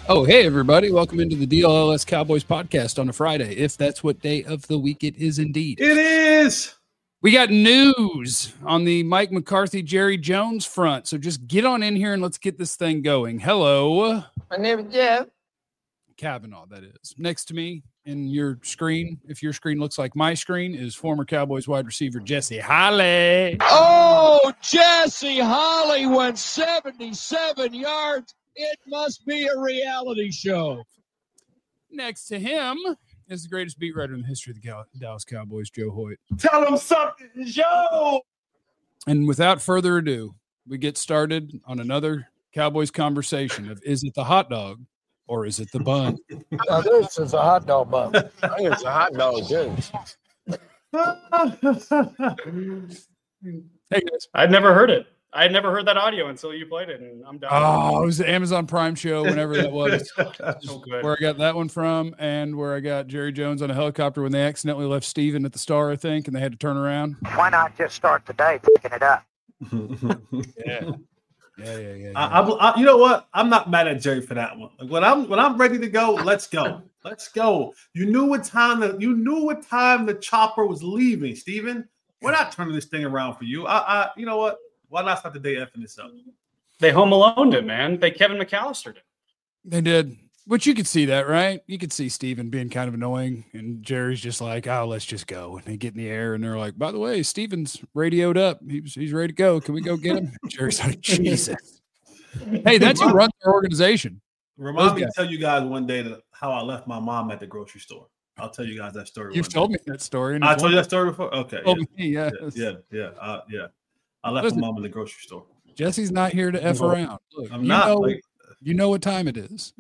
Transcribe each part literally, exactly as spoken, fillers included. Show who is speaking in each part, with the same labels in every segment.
Speaker 1: Oh, hey, everybody. Welcome into the D L L S Cowboys podcast on a Friday, if that's what day of the week it is indeed.
Speaker 2: It is.
Speaker 1: We got news on the Mike McCarthy, Jerry Jones front. So just get on in here and let's get this thing going. Hello.
Speaker 3: My name is Jeff.
Speaker 1: Kavanaugh, that is. Next to me in your screen, if your screen looks like my screen, is former Cowboys wide receiver Jesse Holley.
Speaker 4: Oh, Jesse Holley went seventy-seven yards. It must be a reality show.
Speaker 1: Next to him is the greatest beat writer in the history of the Dallas Cowboys, Joe Hoyt.
Speaker 2: Tell him something, Joe.
Speaker 1: And without further ado, we get started on another Cowboys conversation of, is it the hot dog or is it the bun?
Speaker 3: Now, this is a hot dog bun. I think it's a hot dog, too.
Speaker 1: Hey, guys.
Speaker 5: I'd never heard it. I had never heard that audio until you played it, and I'm done.
Speaker 1: Oh, it was the Amazon Prime show, whenever that was.
Speaker 5: So good.
Speaker 1: Where I got that one from, and where I got Jerry Jones on a helicopter when they accidentally left Steven at the Star, I think, and they had to turn around.
Speaker 6: Why not just start the day picking it up?
Speaker 1: Yeah. Yeah, yeah, yeah. yeah.
Speaker 2: I, I, I, you know what? I'm not mad at Jerry for that one. Like when I'm when I'm ready to go, let's go. Let's go. You knew what time the you knew what time the chopper was leaving, Steven. We're not turning this thing around for you. I, I you know what? Why not start the day effing this up?
Speaker 5: They home alone it, man. They Kevin McAllister did.
Speaker 1: They did. Which you could see that, right? You could see Steven being kind of annoying, and Jerry's just like, oh, let's just go. And they get in the air, and they're like, by the way, Steven's radioed up. He's, he's ready to go. Can we go get him? Jerry's like, Jesus. Hey, that's who runs our organization.
Speaker 2: Remind me to tell you guys one day that how I left my mom at the grocery store. I'll tell you guys that story.
Speaker 1: You've told me that story.
Speaker 2: I told you that story before? Okay.
Speaker 1: Oh,
Speaker 2: Yeah,
Speaker 1: yeah.
Speaker 2: yeah, yeah. yeah, uh, yeah. I left
Speaker 1: Listen,
Speaker 2: my mom in the grocery store.
Speaker 1: Jesse's not here to F
Speaker 2: No,
Speaker 1: around. Look,
Speaker 2: I'm
Speaker 1: you
Speaker 2: not.
Speaker 1: Know,
Speaker 2: Like,
Speaker 1: you know what time it is.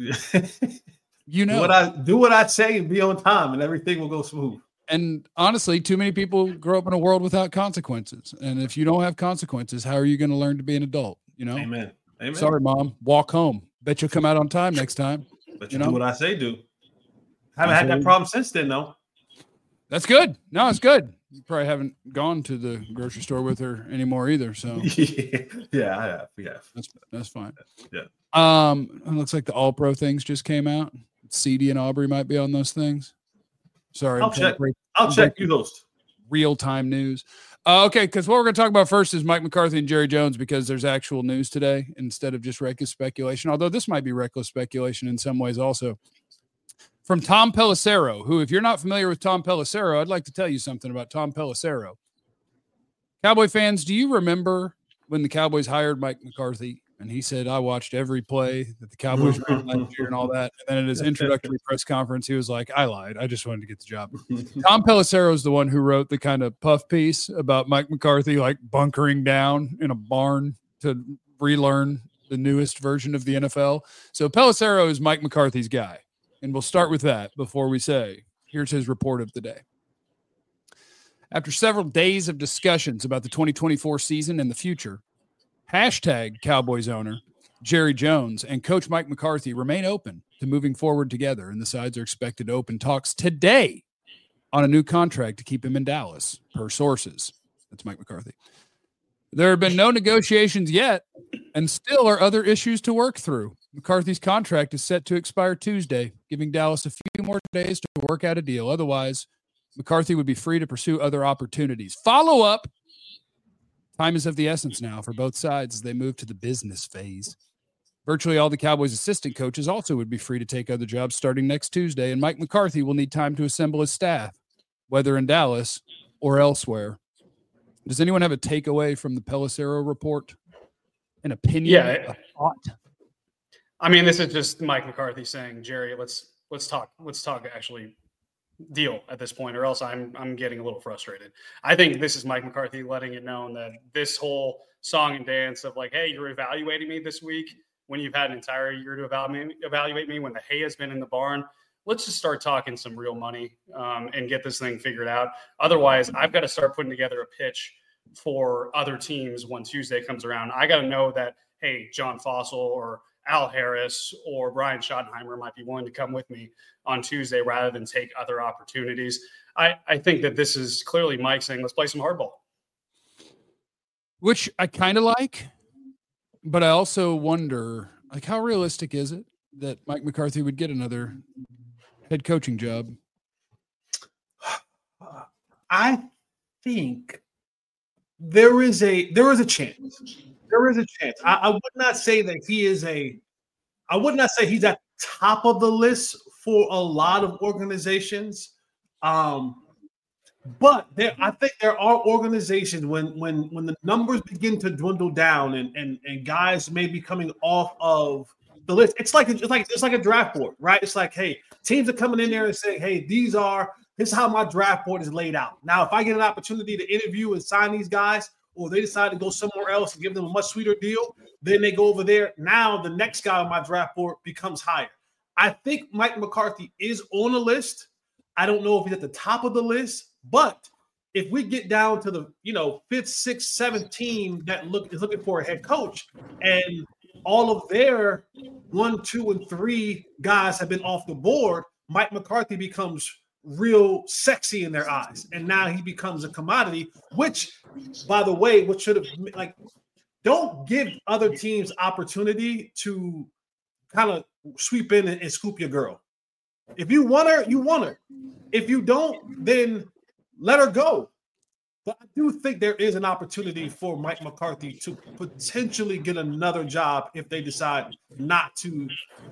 Speaker 1: You know.
Speaker 2: do what I do what I say and be on time, and everything will go smooth.
Speaker 1: And honestly, too many people grow up in a world without consequences. And if you don't have consequences, how are you going to learn to be an adult? You know?
Speaker 2: Amen. Amen.
Speaker 1: Sorry, Mom. Walk home. Bet you'll come out on time next time.
Speaker 2: But
Speaker 1: you
Speaker 2: you
Speaker 1: know?
Speaker 2: do what I say do. Haven't had that problem since then, though.
Speaker 1: That's good. No, it's good. You probably haven't gone to the grocery store with her anymore either. So
Speaker 2: yeah, yeah, I have. Yeah,
Speaker 1: that's that's fine.
Speaker 2: Yeah.
Speaker 1: Um, it looks like the All Pro things just came out. C D and Aubrey might be on those things. Sorry,
Speaker 2: I'll check. Break, I'll check. You host
Speaker 1: real time news. Uh, okay, because what we're going to talk about first is Mike McCarthy and Jerry Jones, because there's actual news today instead of just reckless speculation. Although this might be reckless speculation in some ways also. From Tom Pelissero, who, if you're not familiar with Tom Pelissero, I'd like to tell you something about Tom Pelissero. Cowboy fans, do you remember when the Cowboys hired Mike McCarthy and he said, I watched every play that the Cowboys ran last year and all that? And then at his introductory press conference, he was like, I lied. I just wanted to get the job. Tom Pelissero is the one who wrote the kind of puff piece about Mike McCarthy, like bunkering down in a barn to relearn the newest version of the N F L. So Pelissero is Mike McCarthy's guy. And we'll start with that before we say, here's his report of the day. After several days of discussions about the twenty twenty-four season and the future, hashtag Cowboys owner Jerry Jones and Coach Mike McCarthy remain open to moving forward together, and the sides are expected to open talks today on a new contract to keep him in Dallas, per sources. That's Mike McCarthy. There have been no negotiations yet, and still are other issues to work through. McCarthy's contract is set to expire Tuesday, giving Dallas a few more days to work out a deal. Otherwise, McCarthy would be free to pursue other opportunities. Follow up. Time is of the essence now for both sides as they move to the business phase. Virtually all the Cowboys' assistant coaches also would be free to take other jobs starting next Tuesday, and Mike McCarthy will need time to assemble his staff, whether in Dallas or elsewhere. Does anyone have a takeaway from the Pelissero report? An opinion?
Speaker 5: Yeah.
Speaker 1: A thought?
Speaker 5: I mean, this is just Mike McCarthy saying, Jerry, let's let's talk. Let's talk actually deal at this point, or else I'm I'm getting a little frustrated. I think this is Mike McCarthy letting it known that this whole song and dance of like, hey, you're evaluating me this week when you've had an entire year to evaluate, evaluate me, when the hay has been in the barn. Let's just start talking some real money um, and get this thing figured out. Otherwise, I've got to start putting together a pitch for other teams when Tuesday comes around. I got to know that, hey, John Fossil or Al Harris or Brian Schottenheimer might be willing to come with me on Tuesday rather than take other opportunities. I, I think that this is clearly Mike saying, let's play some hardball.
Speaker 1: Which I kind of like, but I also wonder, like, how realistic is it? that Mike McCarthy would get another head coaching job?
Speaker 2: I think there is a there is a chance. There is a chance. I, I would not say that he is a. I would not say he's at the top of the list for a lot of organizations. Um, but there, I think there are organizations when when when the numbers begin to dwindle down and and and guys may be coming off of the list. It's like it's like it's like a draft board, right? It's like, hey, teams are coming in there and saying, hey, these are this is how my draft board is laid out. Now, if I get an opportunity to interview and sign these guys, or they decide to go somewhere else and give them a much sweeter deal, then they go over there. Now the next guy on my draft board becomes higher. I think Mike McCarthy is on the list. I don't know if he's at the top of the list, but if we get down to the, you know, fifth, sixth, seventh team that look is looking for a head coach, and all of their one, two, and three guys have been off the board, Mike McCarthy becomes real sexy in their eyes. And now he becomes a commodity, which, by the way, what should have, like, don't give other teams opportunity to kind of sweep in and, and scoop your girl. If you want her, you want her. If you don't, then let her go. But I do think there is an opportunity for Mike McCarthy to potentially get another job if they decide not to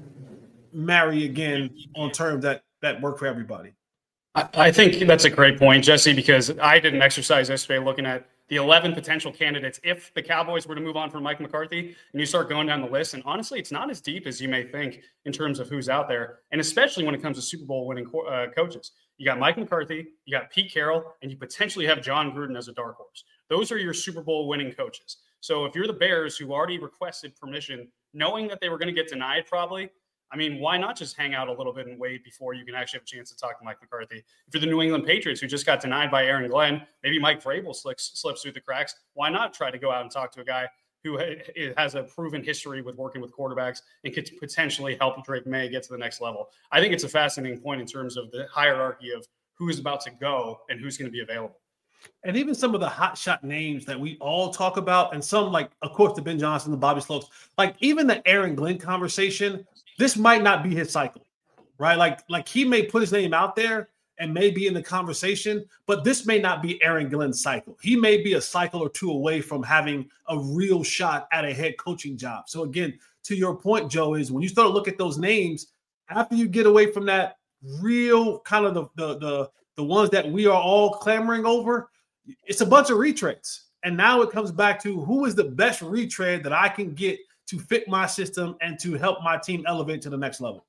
Speaker 2: marry again on terms that, that work for everybody.
Speaker 5: I, I think that's a great point, Jesse, because I did an exercise yesterday looking at the eleven potential candidates if the Cowboys were to move on from Mike McCarthy, and you start going down the list. And honestly, it's not as deep as you may think in terms of who's out there, and especially when it comes to Super Bowl winning co- uh, coaches. You got Mike McCarthy, you got Pete Carroll, and you potentially have John Gruden as a dark horse. Those are your Super Bowl winning coaches. So if you're the Bears who already requested permission, knowing that they were going to get denied probably, I mean, why not just hang out a little bit and wait before you can actually have a chance to talk to Mike McCarthy? If you're the New England Patriots who just got denied by Aaron Glenn, maybe Mike Vrabel slips, slips through the cracks. Why not try to go out and talk to a guy who has a proven history with working with quarterbacks and could potentially help Drake May get to the next level? I think it's a fascinating point in terms of the hierarchy of who's about to go and who's going to be available.
Speaker 2: And even some of the hot shot names that we all talk about, and some, like, of course, the Ben Johnson, the Bobby Slopes, like even the Aaron Glenn conversation, this might not be his cycle, right? Like, like he may put his name out there and may be in the conversation, but this may not be Aaron Glenn's cycle. He may be a cycle or two away from having a real shot at a head coaching job. So again, to your point, Joe, is when you start to look at those names, after you get away from that real kind of the the the, the ones that we are all clamoring over, it's a bunch of retreads. And now it comes back to who is the best retread that I can get to fit my system and to help my team elevate to the next level.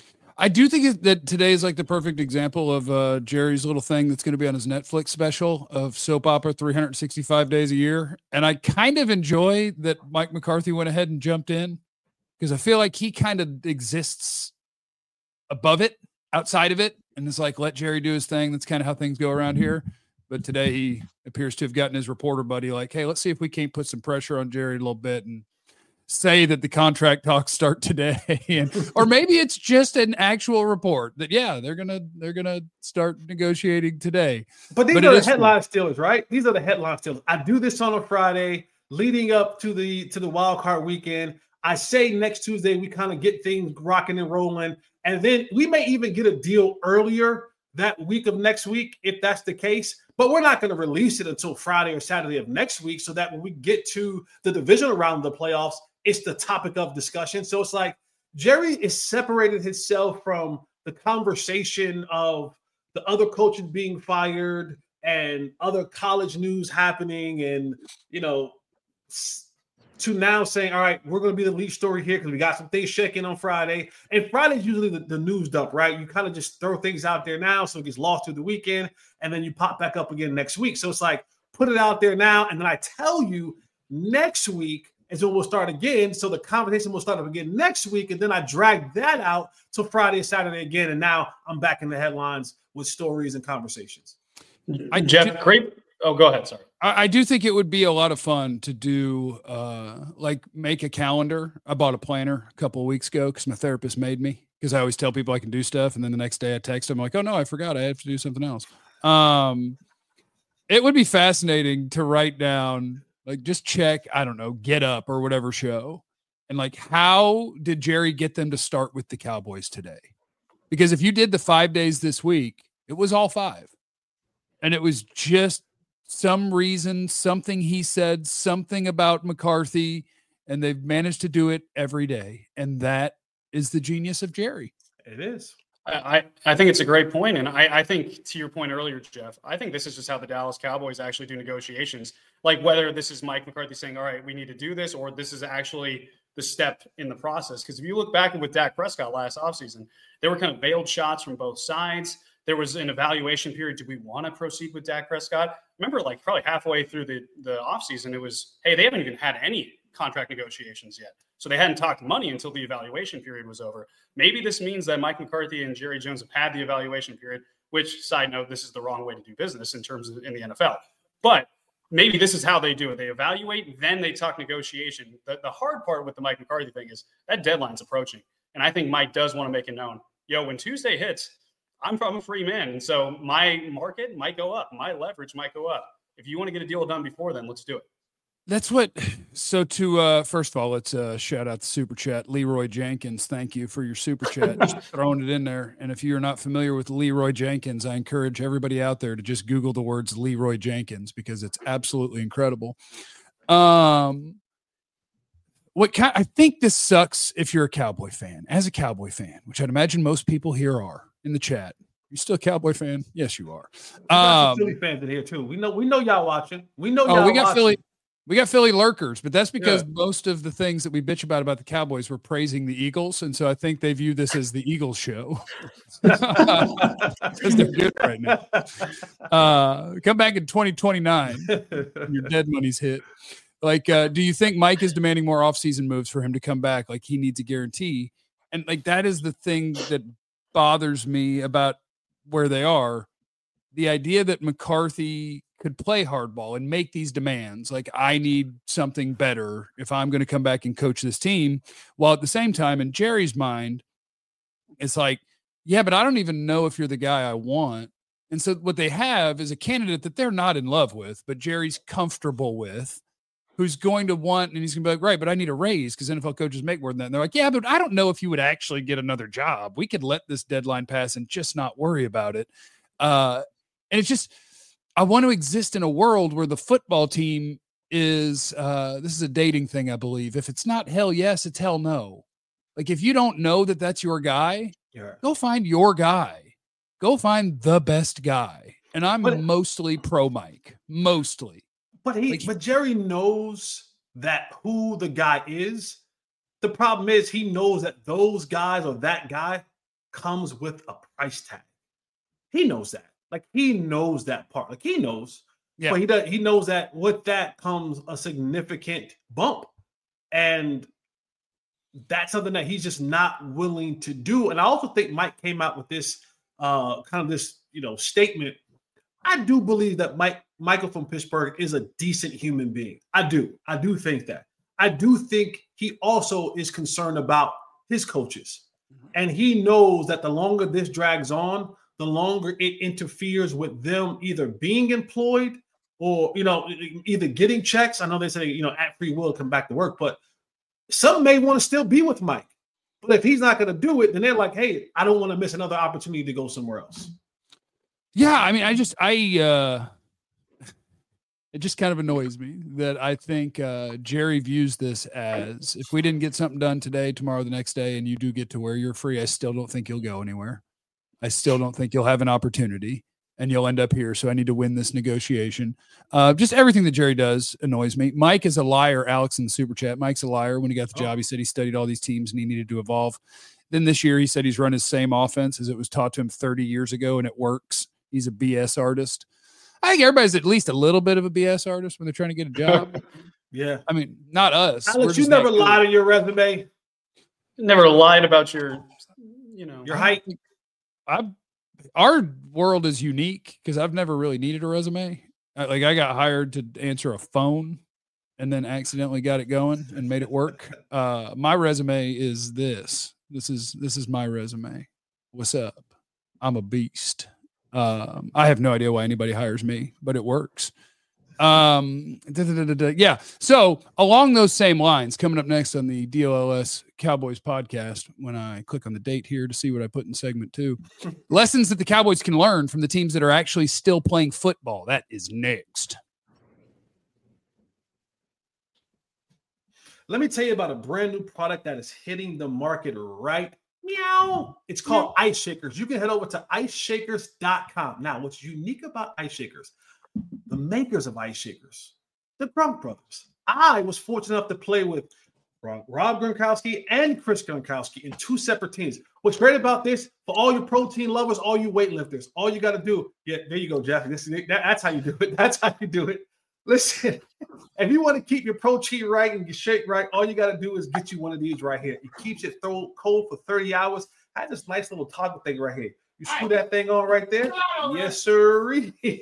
Speaker 1: I do think that today is like the perfect example of uh, Jerry's little thing that's going to be on his Netflix special of soap opera three hundred sixty-five days a year. And I kind of enjoy that Mike McCarthy went ahead and jumped in because I feel like he kind of exists above it, outside of it. And it's like, let Jerry do his thing. That's kind of how things go around here. But today he appears to have gotten his reporter buddy like, hey, let's see if we can't put some pressure on Jerry a little bit and say that the contract talks start today. And, or maybe it's just an actual report that, yeah, they're going to, they're going to start negotiating today.
Speaker 2: But these
Speaker 1: but
Speaker 2: are the
Speaker 1: is,
Speaker 2: headline stealers, right? These are the headline stealers. I do this on a Friday leading up to the, to the wild card weekend. I say next Tuesday, we kind of get things rocking and rolling. And then we may even get a deal earlier that week of next week, if that's the case. But we're not going to release it until Friday or Saturday of next week so that when we get to the divisional round of the playoffs, it's the topic of discussion. So it's like Jerry is separated himself from the conversation of the other coaches being fired and other college news happening and, you know, to now saying, all right, we're going to be the lead story here because we got some things shaking on Friday. And Friday's usually the, the news dump, right? You kind of just throw things out there now so it gets lost through the weekend, and then you pop back up again next week. So it's like, put it out there now, and then I tell you next week is when we'll start again. So the conversation will start up again next week, and then I drag that out till Friday and Saturday again, and now I'm back in the headlines with stories and conversations.
Speaker 5: I, Jeff, great. Oh, go ahead. Sorry.
Speaker 1: I, I do think it would be a lot of fun to do, uh, like make a calendar. I bought a planner a couple of weeks ago because my therapist made me, because I always tell people I can do stuff. And then the next day I text them like, oh no, I forgot I have to do something else. Um, it would be fascinating to write down, like just check, I don't know, Get Up or whatever show And like, how did Jerry get them to start with the Cowboys today? Because if you did the five days this week, it was all five. And it was just some reason, something he said, something about McCarthy, and they've managed to do it every day. And that is the genius of Jerry.
Speaker 2: It is.
Speaker 5: I, I think it's a great point. And I, I think to your point earlier, Jeff, I think this is just how the Dallas Cowboys actually do negotiations. Like whether this is Mike McCarthy saying, all right, we need to do this, or this is actually the step in the process. Because if you look back with Dak Prescott last offseason, there were kind of veiled shots from both sides. There was an evaluation period. Do we want to proceed with Dak Prescott? Remember, like probably halfway through the, the offseason, it was, hey, they haven't even had any contract negotiations yet. So they hadn't talked money until the evaluation period was over. Maybe this means that Mike McCarthy and Jerry Jones have had the evaluation period, which, side note, this is the wrong way to do business in terms of in the N F L. But maybe this is how they do it. They evaluate, then they talk negotiation. The, the hard part with the Mike McCarthy thing is that deadline's approaching. And I think Mike does want to make it known. Yo, when Tuesday hits, I'm from a free man. And so my market might go up. My leverage might go up. If you want to get a deal done before then, let's do it.
Speaker 1: That's what. So to uh, first of all, let's uh, shout out the super chat. Leroy Jenkins, thank you for your super chat. Just throwing it in there. And if you're not familiar with Leroy Jenkins, I encourage everybody out there to just Google the words Leroy Jenkins because it's absolutely incredible. Um, what kind, I think this sucks if you're a Cowboy fan. As a Cowboy fan, which I'd imagine most people here are in the chat. You're still a Cowboy fan? Yes, you are.
Speaker 2: We got
Speaker 1: Um,
Speaker 2: some Philly fans in here too. We know we know y'all watching. We know
Speaker 1: oh,
Speaker 2: y'all
Speaker 1: we got
Speaker 2: watching.
Speaker 1: Philly. We got Philly lurkers, but that's because
Speaker 2: Yeah.
Speaker 1: most of the things that we bitch about about the Cowboys were praising the Eagles, and so I think they view this as the Eagles show because they're good right now. Uh, come back in twenty twenty-nine, your dead money's hit. Like, uh, do you think Mike is demanding more offseason moves for him to come back? Like, he needs a guarantee, and like that is the thing that bothers me about where they are. The idea that McCarthy could play hardball and make these demands, like I need something better if I'm going to come back and coach this team, while at the same time in Jerry's mind, it's like, yeah, but I don't even know if you're the guy I want. And so what they have is a candidate that they're not in love with, but Jerry's comfortable with, who's going to want, and he's going to be like, right, but I need a raise because N F L coaches make more than that. And they're like, yeah, but I don't know if you would actually get another job. We could let this deadline pass and just not worry about it. Uh, and it's just, I want to exist in a world where the football team is, uh, this is a dating thing, I believe. If it's not hell yes, it's hell no. Like if you don't know that that's your guy,
Speaker 2: Yeah.
Speaker 1: go find your guy. Go find the best guy. And I'm
Speaker 2: But-
Speaker 1: mostly pro Mike, mostly.
Speaker 2: But he,
Speaker 1: Like-
Speaker 2: but Jerry knows that who the guy is. The problem is he knows that those guys or that guy comes with a price tag. He knows that. Like he knows that part. Like he knows.
Speaker 1: Yeah.
Speaker 2: But he does. He knows that with that comes a significant bump, and that's something that he's just not willing to do. And I also think Mike came out with this uh, kind of this you know statement. I do believe that Mike Michael from Pittsburgh is a decent human being. I do. I do think that. I do think he also is concerned about his coaches. And he knows that the longer this drags on, the longer it interferes with them either being employed or, you know, either getting checks. I know they say, you know, at free will come back to work, but some may want to still be with Mike. But if he's not going to do it, then they're like, hey, I don't want to miss another opportunity to go somewhere else.
Speaker 1: Yeah, I mean, I just, I, uh, it just kind of annoys me that I think uh, Jerry views this as if we didn't get something done today, tomorrow, the next day, and you do get to where you're free, I still don't think you'll go anywhere. I still don't think you'll have an opportunity and you'll end up here. So I need to win this negotiation. Uh, just everything that Jerry does annoys me. Mike is a liar. Alex in the super chat. Mike's a liar. When he got the job, he said he studied all these teams and he needed to evolve. Then this year he said he's run his same offense as it was taught to him thirty years ago and it works. He's a B S artist. I think everybody's at least a little bit of a B S artist when they're trying to get a job.
Speaker 2: Yeah.
Speaker 1: I mean, not us. We're
Speaker 2: Alex, you
Speaker 1: just
Speaker 2: never
Speaker 1: not good.
Speaker 2: lied on your resume.
Speaker 5: Never lied about your, you know,
Speaker 2: Your height.
Speaker 1: I, our world is unique because I've never really needed a resume. I, like I got hired to answer a phone and then accidentally got it going and made it work. Uh, my resume is this. This is this is my resume. What's up? I'm a beast. Um, I have no idea why anybody hires me, but it works. Um, da, da, da, da, da. Yeah. So along those same lines, coming up next on the D L L S Cowboys podcast, when I click on the date here to see what I put in segment two, lessons that the Cowboys can learn from the teams that are actually still playing football. That is next.
Speaker 2: Let me tell you about a brand new product that is hitting the market right meow. It's called Ice Shakers. You can head over to ice shakers dot com. Now, what's unique about Ice Shakers? The makers of Ice Shakers, the Gronk brothers. I was fortunate enough to play with Rob Gronkowski and Chris Gronkowski in two separate teams. What's great about this, for all your protein lovers, all you weightlifters, all you got to do, yeah, there you go, Jeff. This is that, that's how you do it. That's how you do it. Listen, if you want to keep your protein right and your shake right, all you got to do is get you one of these right here. It keeps it throw cold for thirty hours. I have this nice little toggle thing right here. You screw that thing on right there. Yes, sir.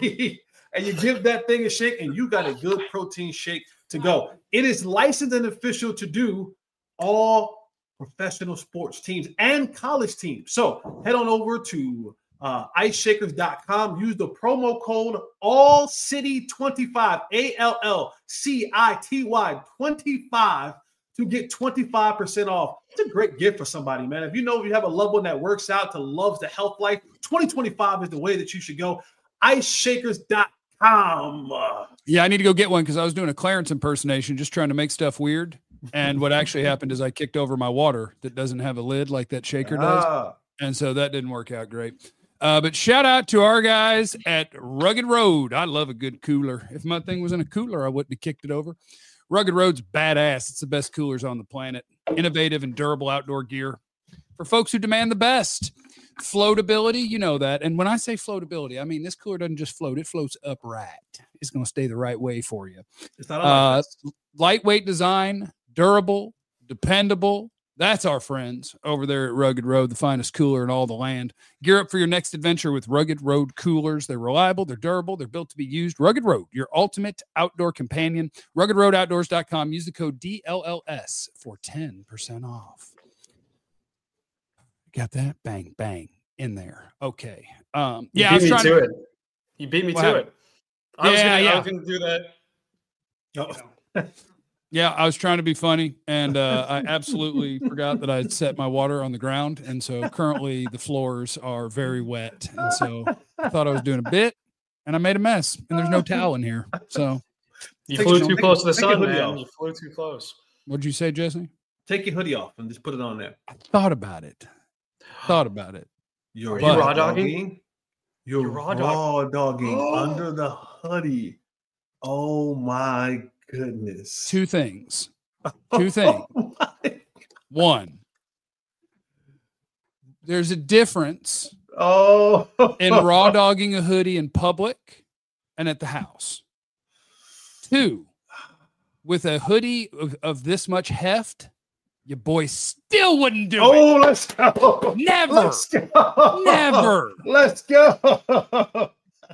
Speaker 2: And you give that thing a shake, and you got a good protein shake to go. It is licensed and official to do all professional sports teams and college teams. So head on over to uh, ice shakers dot com. Use the promo code all city twenty-five, A L L C I T Y twenty-five to get twenty-five percent off. It's a great gift for somebody, man. If you know if you have a loved one that works out, to loves the health life, twenty twenty-five is the way that you should go. ice shakers dot com.
Speaker 1: Yeah, I need to go get one because I was doing a Clarence impersonation, just trying to make stuff weird. And what actually happened is I kicked over my water that doesn't have a lid like that shaker does. Ah. And so that didn't work out great. Uh, but shout out to our guys at Rugged Road. I love a good cooler. If my thing was in a cooler, I wouldn't have kicked it over. Rugged Road's badass. It's the best coolers on the planet. Innovative and durable outdoor gear for folks who demand the best. Floatability, you know that. And when I say floatability, I mean this cooler doesn't just float, it floats upright. It's going to stay the right way for you.
Speaker 2: It's not a
Speaker 1: uh, lightweight design, durable, dependable. That's our friends over there at Rugged Road, the finest cooler in all the land. Gear up for your next adventure with Rugged Road coolers. They're reliable, they're durable, they're built to be used. Rugged Road, your ultimate outdoor companion. rugged road outdoors dot com. Use the code D L L S for ten percent off. Got that? Bang, bang in there. Okay. Um, yeah,
Speaker 5: you beat
Speaker 1: I was
Speaker 5: me
Speaker 1: trying
Speaker 5: to
Speaker 1: to,
Speaker 5: it. You beat me
Speaker 1: what
Speaker 5: to
Speaker 1: happened?
Speaker 5: it. I was
Speaker 1: Yeah,
Speaker 5: gonna,
Speaker 1: yeah.
Speaker 5: I was going to do that.
Speaker 2: Oh.
Speaker 1: Yeah, I was trying to be funny, and uh, I absolutely forgot that I had set my water on the ground, and so currently the floors are very wet, and so I thought I was doing a bit, and I made a mess, and there's no towel in here. So
Speaker 5: You
Speaker 2: Take
Speaker 5: flew
Speaker 2: your-
Speaker 5: too
Speaker 2: take-
Speaker 5: close to the
Speaker 2: take your
Speaker 5: sun,
Speaker 2: hoodie
Speaker 5: man.
Speaker 2: off.
Speaker 5: You flew too close.
Speaker 1: what'd you say, Jesse?
Speaker 2: Take your hoodie off and just put it on there.
Speaker 1: Thought about it. Thought about it.
Speaker 2: You're
Speaker 5: Are you raw dogging?
Speaker 2: You're,
Speaker 5: You're
Speaker 2: raw,
Speaker 5: raw
Speaker 2: dogging
Speaker 5: dog-
Speaker 2: under the hoodie. Oh my goodness.
Speaker 1: Two things. Two things.
Speaker 2: Oh my-
Speaker 1: One, there's a difference
Speaker 2: Oh.
Speaker 1: in raw dogging a hoodie in public and at the house. Two, with a hoodie of, of this much heft, your boy still wouldn't do
Speaker 2: Oh,
Speaker 1: it.
Speaker 2: let's go.
Speaker 1: Never.
Speaker 2: Let's go.
Speaker 1: Never.
Speaker 2: Let's go.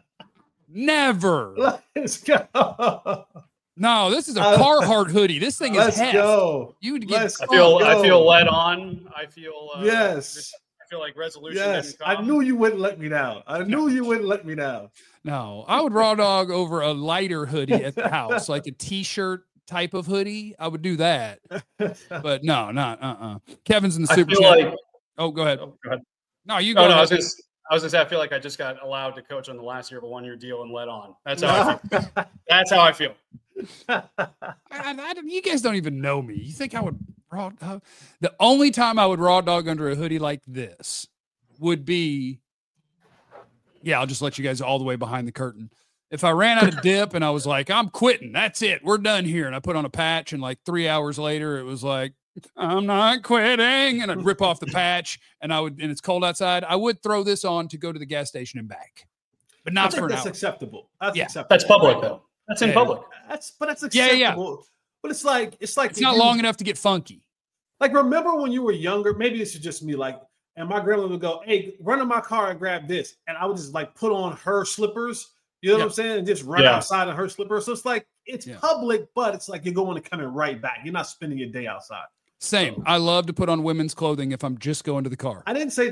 Speaker 1: Never.
Speaker 2: Let's go.
Speaker 1: No, this is a
Speaker 2: Uh,
Speaker 1: Carhartt hoodie. This thing is
Speaker 2: Let's
Speaker 1: heft.
Speaker 2: go.
Speaker 1: You would get
Speaker 2: Let's
Speaker 5: I feel
Speaker 2: go.
Speaker 5: I feel led on. I feel uh,
Speaker 2: Yes.
Speaker 5: I feel like resolution.
Speaker 2: Yes.
Speaker 5: didn't
Speaker 2: I
Speaker 5: come.
Speaker 2: knew you wouldn't let me down. I knew you wouldn't let me down.
Speaker 1: No, I would raw dog over a lighter hoodie at the house, like a t-shirt type of hoodie. I would do that. But no, not uh-uh. Kevin's in the
Speaker 5: I
Speaker 1: super
Speaker 5: feel
Speaker 1: chat.
Speaker 5: like.
Speaker 1: Oh, go ahead.
Speaker 5: Oh, go ahead.
Speaker 1: No, you go.
Speaker 5: Oh, no, I
Speaker 1: ahead.
Speaker 5: was just. I was just. I feel like I just got allowed to coach on the last year of a one-year deal and led on. That's how I feel. That's how I feel.
Speaker 1: I, I, don't- you guys don't even know me. You think I would raw dog? The only time I would raw dog under a hoodie like this would be, yeah, I'll just let you guys all the way behind the curtain. If I ran out of dip and I was like, I'm quitting, that's it, we're done here. And I put on a patch, and like three hours later, it was like, I'm not quitting. And I'd rip off the patch, and I would, and it's cold outside, I would throw this on to go to the gas station and back, but
Speaker 2: I
Speaker 1: not
Speaker 2: think
Speaker 1: for an
Speaker 2: that's
Speaker 1: hour.
Speaker 2: acceptable. That's
Speaker 1: Yeah.
Speaker 2: acceptable.
Speaker 5: That's public though. That's in
Speaker 1: Yeah.
Speaker 5: public.
Speaker 2: That's but that's
Speaker 1: Yeah,
Speaker 2: acceptable.
Speaker 1: yeah.
Speaker 2: But it's like it's like
Speaker 1: It's not
Speaker 2: you-
Speaker 1: long enough to get funky.
Speaker 2: Like, remember when you were younger? Maybe this is just me. Like, and my grandma would go, "Hey, run in my car and grab this," and I would just like put on her slippers. You know
Speaker 1: Yeah.
Speaker 2: what I'm saying? And just run
Speaker 5: Yeah.
Speaker 2: outside in her slippers. So it's like it's
Speaker 1: Yeah.
Speaker 2: public, but it's like you're going to coming right back. You're not spending your day outside.
Speaker 1: Same. I love to put on women's clothing if I'm just going to the car.
Speaker 2: I didn't say that.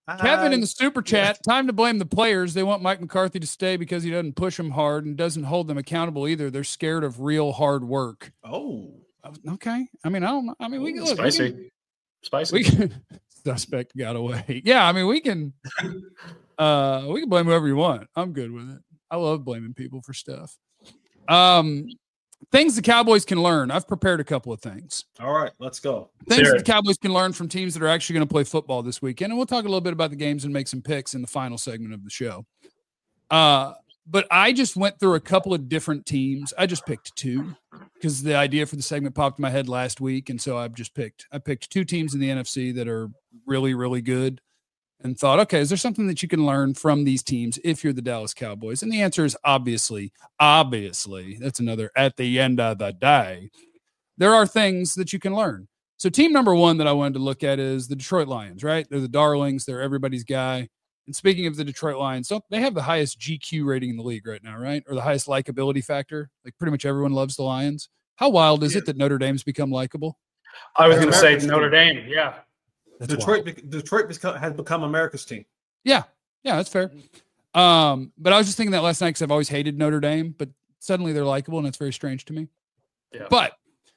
Speaker 1: Kevin in the super chat, time to blame the players. They want Mike McCarthy to stay because he doesn't push them hard and doesn't hold them accountable either. They're scared of real hard work.
Speaker 2: Oh,
Speaker 1: okay. I mean, I don't know. I mean, we can look.
Speaker 5: Spicy.
Speaker 1: We can,
Speaker 5: Spicy.
Speaker 1: We can, suspect got away. Yeah, I mean, we can uh we can blame whoever you want. I'm good with it. I love blaming people for stuff. Um Things the Cowboys can learn. I've prepared a couple of things.
Speaker 2: All right, let's go.
Speaker 1: Things that the Cowboys can learn from teams that are actually going to play football this weekend. And we'll talk a little bit about the games and make some picks in the final segment of the show. Uh, but I just went through a couple of different teams. I just picked two because the idea for the segment popped in my head last week. And so I've just picked, I picked two teams in the N F C that are really, really good. And thought, okay, is there something that you can learn from these teams if you're the Dallas Cowboys? And the answer is obviously, obviously, that's another at the end of the day. There are things that you can learn. So team number one that I wanted to look at is the Detroit Lions, right? They're the darlings. They're everybody's guy. And speaking of the Detroit Lions, don't they have the highest G Q rating in the league right now, right? Or the highest likability factor? Like pretty much everyone loves the Lions. How wild is yeah. it that Notre Dame's become likable?
Speaker 5: I was going to say Notre Dame, yeah.
Speaker 2: That's Detroit, wild. Detroit has become America's team.
Speaker 1: Yeah, yeah, that's fair. Um, but I was just thinking that last night because I've always hated Notre Dame, but suddenly they're likable, and it's very strange to me.
Speaker 5: Yeah.
Speaker 1: But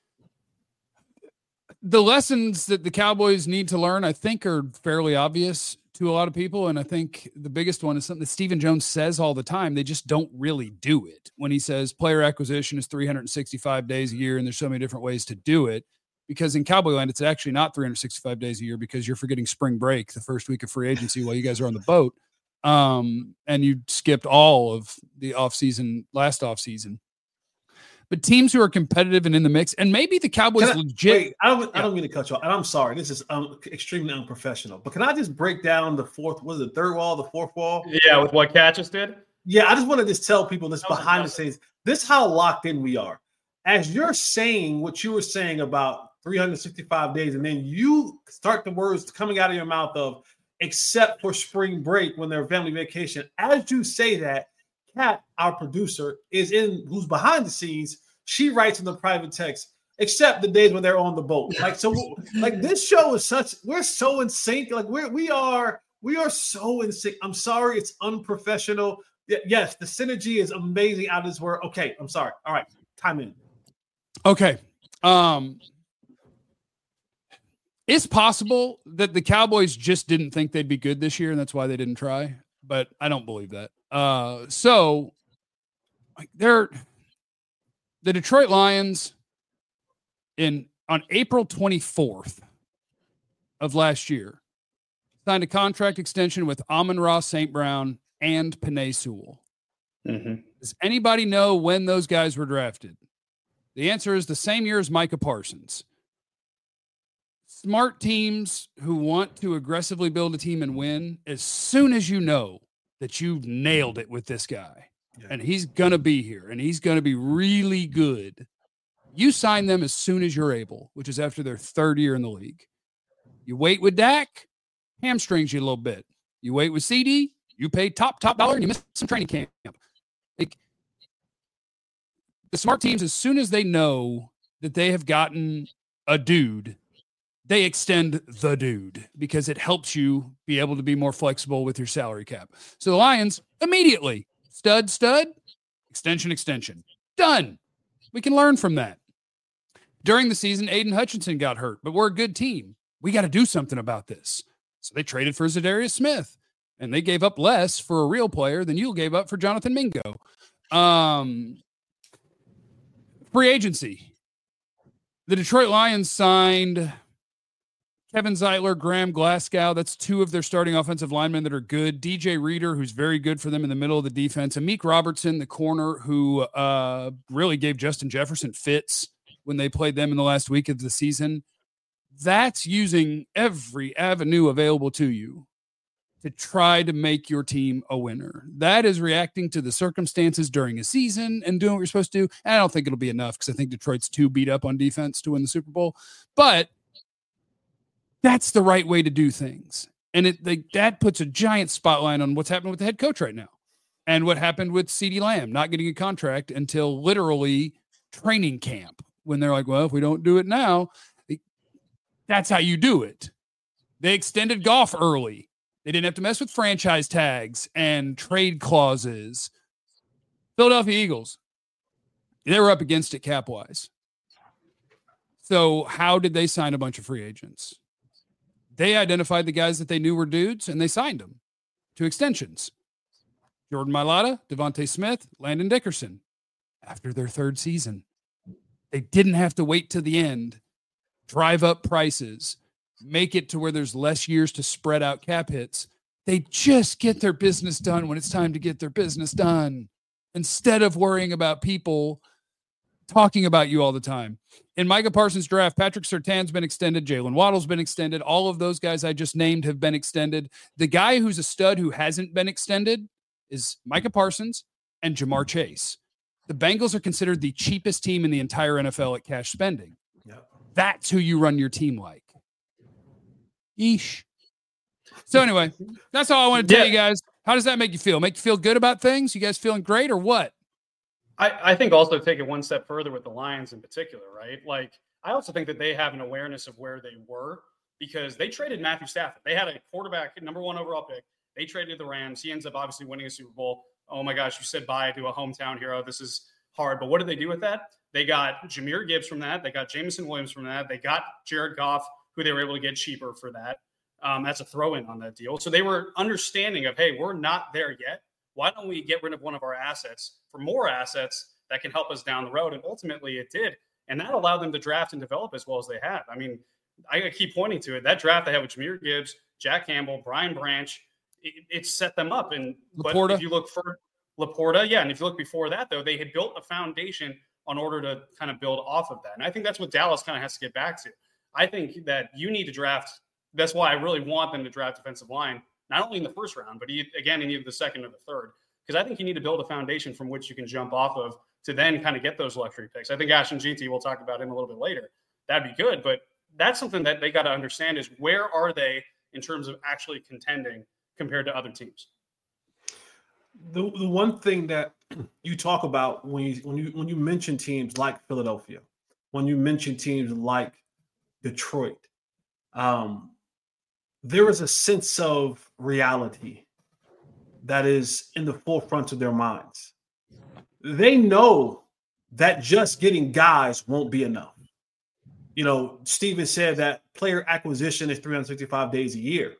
Speaker 1: the lessons that the Cowboys need to learn, I think, are fairly obvious to a lot of people, and I think the biggest one is something that Stephen Jones says all the time. They just don't really do it. When he says player acquisition is three hundred sixty-five days a year, and there's so many different ways to do it. Because in Cowboy land, it's actually not three hundred sixty-five days a year because you're forgetting spring break, the first week of free agency while you guys are on the boat. Um, and you skipped all of the offseason, last offseason. But teams who are competitive and in the mix, and maybe the Cowboys
Speaker 2: I,
Speaker 1: legit.
Speaker 2: Wait, I don't, I don't mean to cut you off. And I'm sorry. This is um, extremely unprofessional. But can I just break down the fourth, was it the third wall, the fourth wall?
Speaker 5: Yeah, with what Cat just did?
Speaker 2: Yeah, I just want to just tell people this behind the scenes. This is how locked in we are. As you're saying what you were saying about three hundred sixty-five days, and then you start the words coming out of your mouth of except for spring break when they're family vacation. As you say that, Kat, our producer, is in who's behind the scenes. She writes in the private text, except the days when they're on the boat. Like so, like this show is such. We're so in sync. Like we're we are we are so in sync. I'm sorry, it's unprofessional. Yes, the synergy is amazing out of this word. Okay, I'm sorry. All right, time in.
Speaker 1: Okay. Um. It's possible that the Cowboys just didn't think they'd be good this year, and that's why they didn't try. But I don't believe that. Uh, so, like, they're the Detroit Lions in on April twenty-fourth of last year signed a contract extension with Amon-Ra Saint Brown and Penei Sewell.
Speaker 5: Mm-hmm.
Speaker 1: Does anybody know when those guys were drafted? The answer is the same year as Micah Parsons. Smart teams who want to aggressively build a team and win, as soon as you know that you've nailed it with this guy yeah. and he's going to be here and he's going to be really good, you sign them as soon as you're able, which is after their third year in the league. You wait with Dak, hamstrings you a little bit. You wait with C D, you pay top, top dollar, and you miss some training camp. Like, the smart teams, as soon as they know that they have gotten a dude, they extend the dude because it helps you be able to be more flexible with your salary cap. So the Lions immediately stud, stud, extension, extension. Done. We can learn from that. During the season, Aiden Hutchinson got hurt, but we're a good team. We got to do something about this. So they traded for Zadarius Smith, and they gave up less for a real player than you gave up for Jonathan Mingo. Um, free agency. The Detroit Lions signed Kevin Zeitler, Graham Glasgow. That's two of their starting offensive linemen that are good. D J Reader, who's very good for them in the middle of the defense. Amik Robertson, the corner, who uh, really gave Justin Jefferson fits when they played them in the last week of the season. That's using every avenue available to you to try to make your team a winner. That is reacting to the circumstances during a season and doing what you're supposed to do. And I don't think it'll be enough because I think Detroit's too beat up on defense to win the Super Bowl. But that's the right way to do things. And it they, that puts a giant spotlight on what's happening with the head coach right now and what happened with CeeDee Lamb not getting a contract until literally training camp when they're like, well, if we don't do it now, it, that's how you do it. They extended Goff early They didn't have to mess with franchise tags and trade clauses. Philadelphia Eagles, they were up against it cap-wise. So how did they sign a bunch of free agents? They identified the guys that they knew were dudes, and they signed them to extensions. Jordan Mailata, Devontae Smith, Landon Dickerson. After their third season, they didn't have to wait to the end, drive up prices, make it to where there's less years to spread out cap hits. They just get their business done when it's time to get their business done, instead of worrying about people talking about you all the time. In Micah Parsons' draft, Patrick Surtain's been extended. Jalen Waddle's been extended. All of those guys I just named have been extended. The guy who's a stud who hasn't been extended is Micah Parsons and Jamar Chase. The Bengals are considered the cheapest team in the entire N F L at cash spending.
Speaker 2: Yep.
Speaker 1: That's who you run your team like. Eesh. So anyway, that's all I want to tell
Speaker 5: yeah.
Speaker 1: you guys. How does that make you feel? Make you feel good about things? You guys feeling great or what?
Speaker 5: I, I think also take it one step further with the Lions in particular, right? Like, I also think that they have an awareness of where they were because they traded Matthew Stafford. They had a quarterback, number one overall pick. They traded the Rams. He ends up obviously winning a Super Bowl. Oh my gosh, you said bye to a hometown hero. This is hard. But what did they do with that? They got Jahmyr Gibbs from that. They got Jameson Williams from that. They got Jared Goff, who they were able to get cheaper for that. Um, that's a throw-in on that deal. So they were understanding of, hey, we're not there yet. Why don't we get rid of one of our assets for more assets that can help us down the road? And ultimately it did. And that allowed them to draft and develop as well as they have. I mean, I keep pointing to it. That draft they had with Jahmyr Gibbs, Jack Campbell, Brian Branch, it, it set them up. And
Speaker 1: Laporta.
Speaker 5: But if you look for Laporta, yeah, and if you look before that, though, they had built a foundation in order to kind of build off of that. And I think that's what Dallas kind of has to get back to. I think that you need to draft. That's why I really want them to draft defensive line, not only in the first round, but again, in either the second or the third. Because I think you need to build a foundation from which you can jump off of to then kind of get those luxury picks. I think Ashton Jeanty, we'll talk about him a little bit later. That'd be good. But that's something that they got to understand is where are they in terms of actually contending compared to other teams?
Speaker 2: The the one thing that you talk about when you when you when you mention teams like Philadelphia, when you mention teams like Detroit, um, there is a sense of reality that is in the forefront of their minds. They know that just getting guys won't be enough. You know, Steven said that player acquisition is three hundred sixty-five days a year.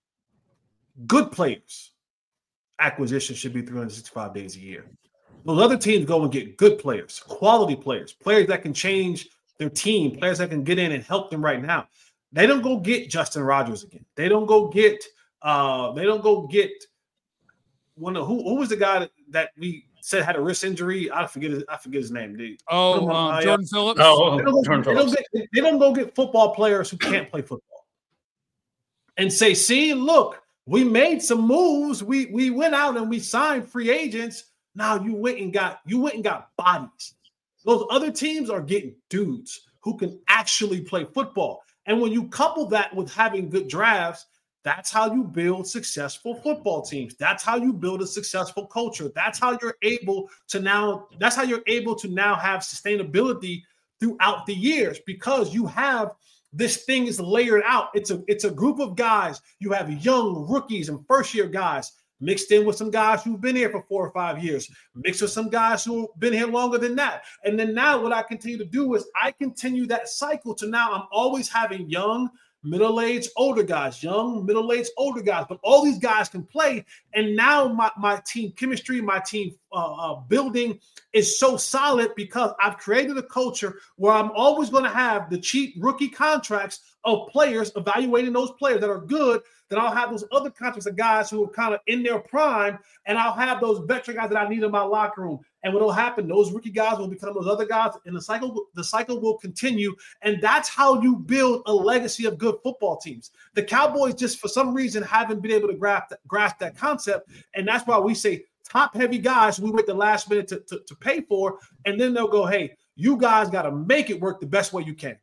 Speaker 2: Good players acquisition should be three hundred sixty-five days a year. Those other teams go and get good players, quality players, players that can change their team, players that can get in and help them right now. They don't go get Justin Rogers again. They don't go get uh, they don't go get one of who who was the guy that, that we said had a wrist injury. I forget his, I forget his name, dude.
Speaker 1: Oh, um, Jordan Phillips.
Speaker 5: Oh,
Speaker 2: they don't, go,
Speaker 5: Jordan
Speaker 2: they,
Speaker 5: Phillips.
Speaker 2: don't get, they don't go get football players who can't play football and say, see, look, we made some moves. We we went out and we signed free agents. Now you went and got you went and got bodies. Those other teams are getting dudes who can actually play football. And when you couple that with having good drafts, that's how you build successful football teams. That's how you build a successful culture. That's how you're able to now, that's how you're able to now have sustainability throughout the years because you have this thing is layered out. It's a, it's a group of guys. You have young rookies and first year guys mixed in with some guys who've been here for four or five years, mixed with some guys who've been here longer than that. And then now what I continue to do is I continue that cycle to now I'm always having young, middle-aged, older guys, young, middle-aged, older guys, but all these guys can play. And now my, my team chemistry, my team uh, uh, building is so solid because I've created a culture where I'm always going to have the cheap rookie contracts of players, evaluating those players that are good. Then I'll have those other contracts of guys who are kind of in their prime, and I'll have those veteran guys that I need in my locker room. And what will happen, those rookie guys will become those other guys, and the cycle, the cycle will continue. And that's how you build a legacy of good football teams. The Cowboys just, for some reason, haven't been able to grasp that, grasp that concept, and that's why we say top-heavy guys we wait the last minute to, to, to pay for, and then they'll go, hey, you guys got to make it work the best way you can.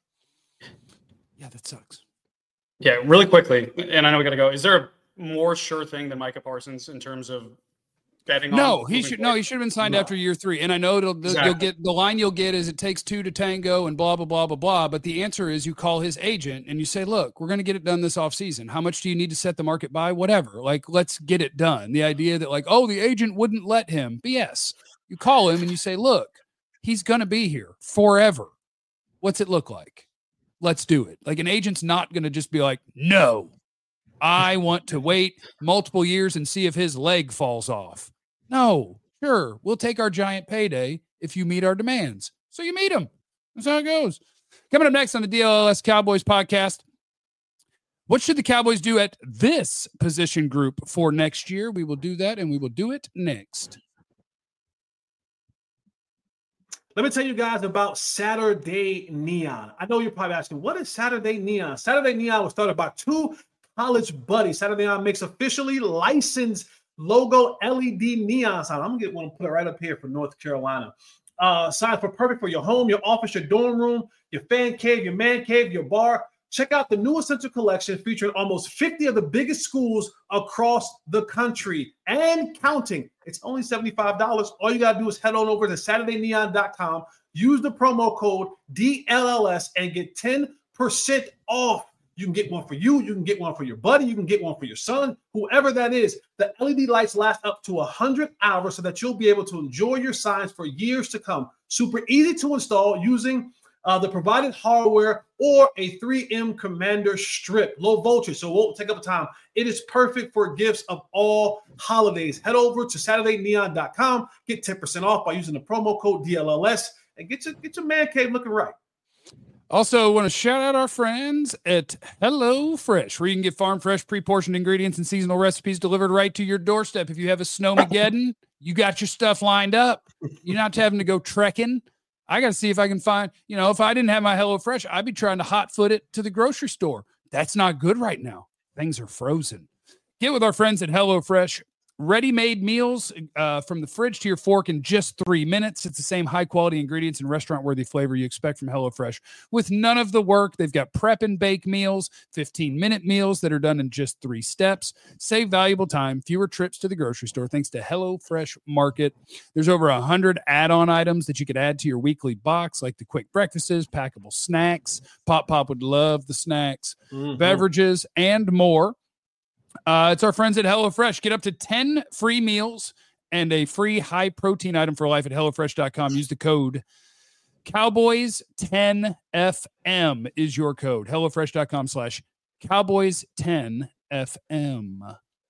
Speaker 1: Yeah, that sucks.
Speaker 5: Yeah, really quickly, and I know we got to go. Is there a more sure thing than Micah Parsons in terms of betting on?
Speaker 1: No, he
Speaker 5: moving
Speaker 1: should.
Speaker 5: forward?
Speaker 1: No, he should have been signed
Speaker 2: No.
Speaker 1: after year three. And I know it'll,
Speaker 5: Exactly.
Speaker 1: you'll get the line you'll get is it takes two to tango and blah blah blah blah blah. But the answer is you call his agent and you say, look, we're going to get it done this offseason. How much do you need to set the market by? Whatever. Like, let's get it done. The idea that like, oh, the agent wouldn't let him. B S. You call him and you say, look, he's going to be here forever. What's it look like? Let's do it. Like an agent's not going to just be like, no, I want to wait multiple years and see if his leg falls off. No, sure. We'll take our giant payday if you meet our demands. So you meet him. That's how it goes. Coming up next on the D L L S Cowboys podcast, what should the Cowboys do at this position group for next year? We will do that, and we will do it next.
Speaker 2: Let me tell you guys about Saturday Neon. I know you're probably asking, what is Saturday Neon? Saturday Neon was started by two college buddies. Saturday Neon makes officially licensed logo L E D neon sign. I'm going to get one and put it right up here for North Carolina. Uh, signs for perfect for your home, your office, your dorm room, your fan cave, your man cave, your bar. Check out the new Essential Collection featuring almost fifty of the biggest schools across the country and counting. It's only seventy-five dollars. All you got to do is head on over to Saturday Neon dot com, use the promo code D L L S, and get ten percent off. You can get one for you. You can get one for your buddy. You can get one for your son, whoever that is. The L E D lights last up to one hundred hours so that you'll be able to enjoy your signs for years to come. Super easy to install using uh, the provided hardware or a three M Commander strip. Low voltage, so it won't take up time. It is perfect for gifts of all holidays. Head over to Saturday Neon dot com. Get ten percent off by using the promo code D L L S and get your, get your man cave looking right.
Speaker 1: Also, want to shout out our friends at HelloFresh, where you can get farm fresh, pre-portioned ingredients and seasonal recipes delivered right to your doorstep. If you have a snowmageddon, you got your stuff lined up. You're not having to go trekking. I got to see if I can find, you know, if I didn't have my HelloFresh, I'd be trying to hot foot it to the grocery store. That's not good right now. Things are frozen. Get with our friends at HelloFresh. Ready-made meals uh, from the fridge to your fork in just three minutes. It's the same high-quality ingredients and restaurant-worthy flavor you expect from HelloFresh with none of the work. They've got prep and bake meals, fifteen-minute meals that are done in just three steps. Save valuable time, fewer trips to the grocery store thanks to HelloFresh Market. There's over one hundred add-on items that you could add to your weekly box, like the quick breakfasts, packable snacks. Pop Pop would love the snacks, mm-hmm. beverages, and more. Uh, it's our friends at HelloFresh. Get up to ten free meals and a free high protein item for life at HelloFresh dot com. Use the code Cowboys ten F M is your code. HelloFresh dot com slash Cowboys ten F M.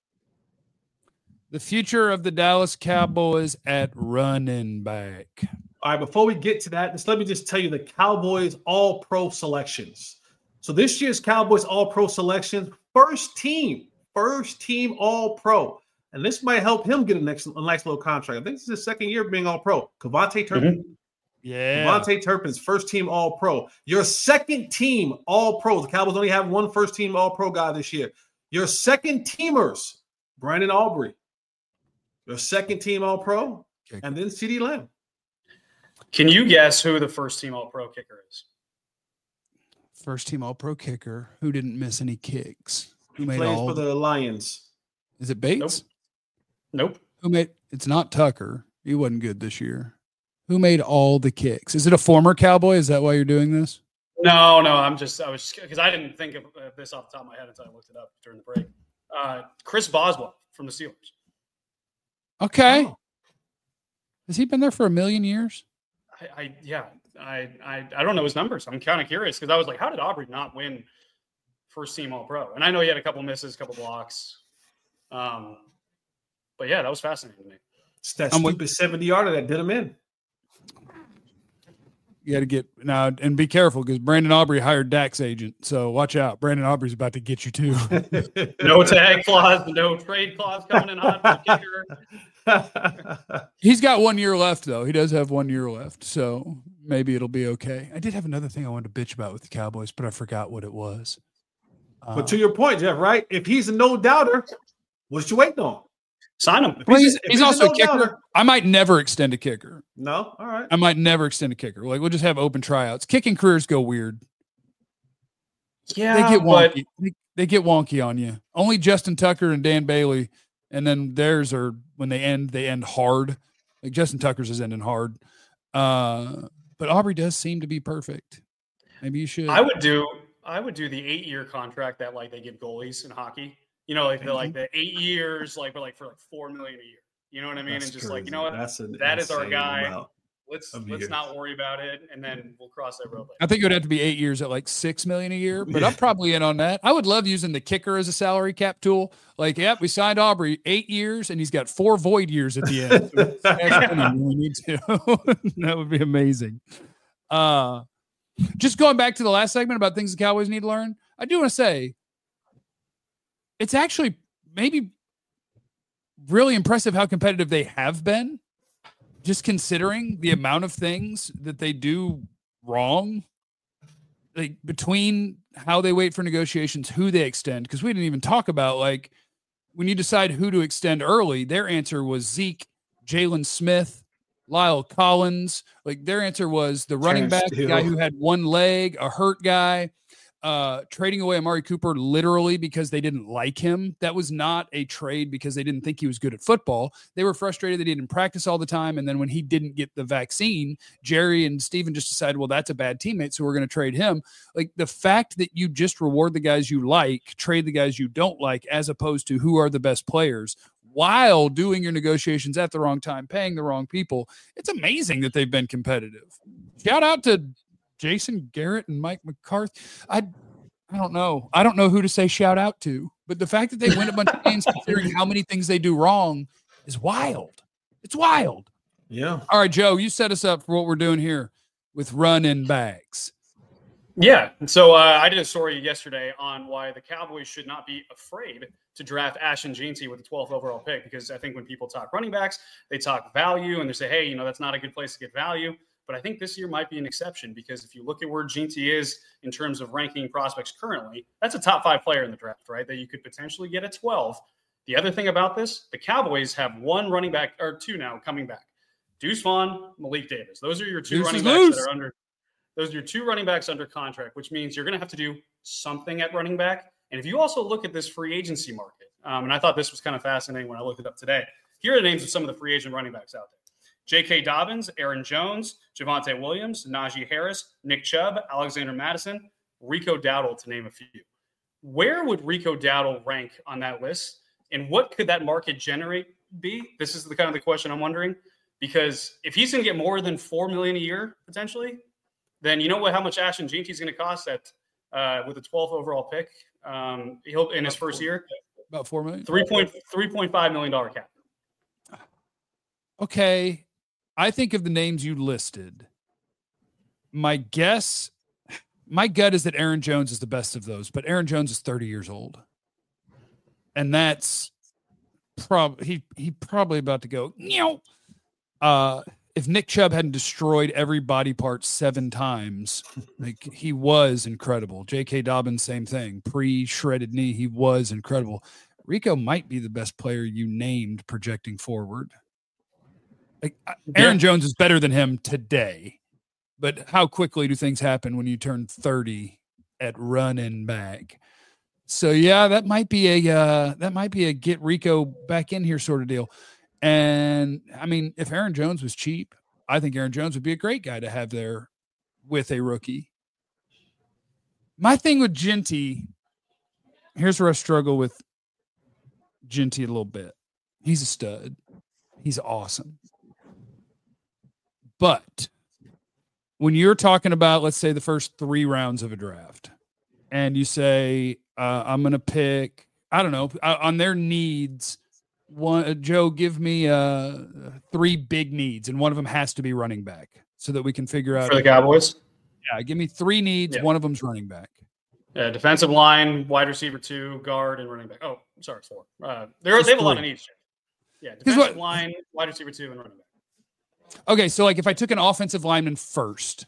Speaker 1: The future of the Dallas Cowboys at running back.
Speaker 2: All right, before we get to that, just let me just tell you the Cowboys All-Pro selections. So this year's Cowboys All-Pro selections, first team. First team All-Pro. And this might help him get a, next, a nice little contract. I think this is his second year being All-Pro. KaVontae Turpin.
Speaker 1: Mm-hmm. Yeah.
Speaker 2: KaVontae Turpin's first team All-Pro. Your second team All-Pro. The Cowboys only have one first team All-Pro guy this year. Your second teamers, Brandon Aubrey. Your second team All-Pro. Okay. And then CeeDee Lamb.
Speaker 5: Can you guess who the first team All-Pro kicker is?
Speaker 1: First team All-Pro kicker who didn't miss any kicks. Who made
Speaker 2: plays
Speaker 1: all
Speaker 2: for the Lions?
Speaker 1: Is it Bates?
Speaker 5: Nope. Nope.
Speaker 1: Who made? It's not Tucker. He wasn't good this year. Who made all the kicks? Is it a former Cowboy? Is that why you're doing this?
Speaker 5: No, no. I'm just. I was because I didn't think of uh, this off the top of my head until I looked it up during the break. Uh, Chris Boswell from the Steelers.
Speaker 1: Okay.
Speaker 2: Oh.
Speaker 1: Has he been there for a million years?
Speaker 5: I, I yeah. I, I I don't know his numbers. I'm kind of curious because I was like, how did Aubrey not win first team All-Pro? And I know he had a couple misses, a couple blocks. Um, but yeah, that was fascinating to me.
Speaker 2: It's that
Speaker 1: I'm
Speaker 2: stupid
Speaker 1: with-
Speaker 2: seventy-yarder that did him in.
Speaker 1: You got to get now and be careful because Brandon Aubrey hired Dak's agent. So watch out. Brandon Aubrey's about to get you too.
Speaker 5: No tag clause, no trade clause coming in hot for the kicker.
Speaker 1: He's got one year left, though. He does have one year left. So maybe it'll be okay. I did have another thing I wanted to bitch about with the Cowboys, but I forgot what it was.
Speaker 2: But um, to your point, Jeff, right? If he's a no doubter, what you waiting on?
Speaker 5: Sign him.
Speaker 1: Well, he's, he's, he's also a, no a kicker. Doubter. I might never extend a kicker.
Speaker 2: No, all right.
Speaker 1: I might never extend a kicker. Like we'll just have open tryouts. Kicking careers go weird.
Speaker 5: Yeah,
Speaker 1: they get
Speaker 5: but...
Speaker 1: wonky. They, they get wonky on you. Only Justin Tucker and Dan Bailey And then theirs are when they end, they end hard. Like Justin Tucker's is ending hard. Uh, but Aubrey does seem to be perfect. Maybe you should.
Speaker 5: I would do I would do the eight year contract that like they give goalies in hockey. You know, like the like the eight years, like but like for like four million a year. You know what I mean?
Speaker 2: That's
Speaker 5: and just
Speaker 2: crazy.
Speaker 5: like, you know what?
Speaker 2: That's an
Speaker 5: that is our
Speaker 2: insane
Speaker 5: guy.
Speaker 2: amount
Speaker 5: Let's
Speaker 2: of
Speaker 5: let's
Speaker 2: years.
Speaker 5: not worry about it, and then we'll cross that road later.
Speaker 1: I think it would have to be eight years at like six million a year, but
Speaker 2: Yeah.
Speaker 1: I'm probably in on that. I would love using the kicker as a salary cap tool. Like, yep, we signed Aubrey eight years, and he's got four void years at the end. So that's when we need to. That would be amazing. Uh, just going back to the last segment about things the Cowboys need to learn. I do want to say it's actually maybe really impressive how competitive they have been. Just considering the amount of things that they do wrong, like between how they wait for negotiations, who they extend, because we didn't even talk about, like, when you decide who to extend early, their answer was Zeke, Jalen Smith, Lyle Collins. Like, their answer was the running back, the guy who had one leg, a hurt guy, uh, trading away Amari Cooper literally because they didn't like him. That was not a trade because they didn't think he was good at football. They were frustrated that he didn't practice all the time. And then when he didn't get the vaccine, Jerry and Steven just decided, well, that's a bad teammate, so we're going to trade him. Like, the fact that you just reward the guys you like, trade the guys you don't like, as opposed to who are the best players, while doing your negotiations at the wrong time, paying the wrong people. It's amazing that they've been competitive. Shout out to Jason Garrett and Mike McCarthy. I I don't know. I don't know who to say shout out to, but the fact that they win a bunch of games considering how many things they do wrong is wild. It's wild.
Speaker 2: Yeah.
Speaker 1: All right, Joe, you set us up for what we're doing here with run-in bags.
Speaker 5: Yeah. So uh, I did a story yesterday on why the Cowboys should not be afraid to draft Ashton Jeanty with the twelfth overall pick, because I think when people talk running backs, they talk value and they say, hey, you know, that's not a good place to get value. But I think this year might be an exception, because if you look at where Jeanty is in terms of ranking prospects currently, that's a top five player in the draft, right? That you could potentially get at twelve. The other thing about this, the Cowboys have one running back, or two now, coming back. Deuce Vaughn, Malik Davis. Those are your two
Speaker 1: Deuce
Speaker 5: running
Speaker 1: is
Speaker 5: backs
Speaker 1: loose.
Speaker 5: that are under those are your two running backs under contract, which means you're going to have to do something at running back. And if you also look at this free agency market, um, and I thought this was kind of fascinating when I looked it up today, here are the names of some of the free agent running backs out there. J K. Dobbins, Aaron Jones, Javonte Williams, Najee Harris, Nick Chubb, Alexander Madison, Rico Dowdle, to name a few. Where would Rico Dowdle rank on that list? And what could that market generate be? This is the kind of the question I'm wondering. Because if he's going to get more than four million dollars a year, potentially, then you know what? How much Ashton Jeanty is going to cost at uh, with the twelfth overall pick? Um, he'll in his first year,
Speaker 1: About four million.
Speaker 5: three point three point five million dollar cap.
Speaker 1: Okay. I think of the names you listed. My guess, my gut is that Aaron Jones is the best of those, but Aaron Jones is thirty years old. And that's probably, he, he probably about to go, Meow. uh, if Nick Chubb hadn't destroyed every body part seven times, like, he was incredible. J K. Dobbins, same thing. Pre-shredded knee, he was incredible. Rico might be the best player you named projecting forward. Like, Aaron yeah. Jones is better than him today, but how quickly do things happen when you turn thirty at running back? So yeah, that might be a uh, that might be a get Rico back in here sort of deal. And I mean, if Aaron Jones was cheap, I think Aaron Jones would be a great guy to have there with a rookie. My thing with Jeanty, here's where I struggle with Jeanty a little bit. He's a stud. He's awesome. But when you're talking about, let's say, the first three rounds of a draft, and you say, uh, I'm going to pick, I don't know, uh, on their needs, one, uh, Joe, give me uh, three big needs, and one of them has to be running back so that we can figure out.
Speaker 5: For the Cowboys?
Speaker 1: Yeah, give me three needs.
Speaker 5: Yeah.
Speaker 1: One of them's running back.
Speaker 5: Yeah, defensive line, wide receiver two, guard, and running back. Oh, sorry, four. Uh, they have a lot of needs. Yeah, defensive
Speaker 1: what,
Speaker 5: line, wide receiver two, and running back.
Speaker 1: Okay, so like if I took an offensive lineman first,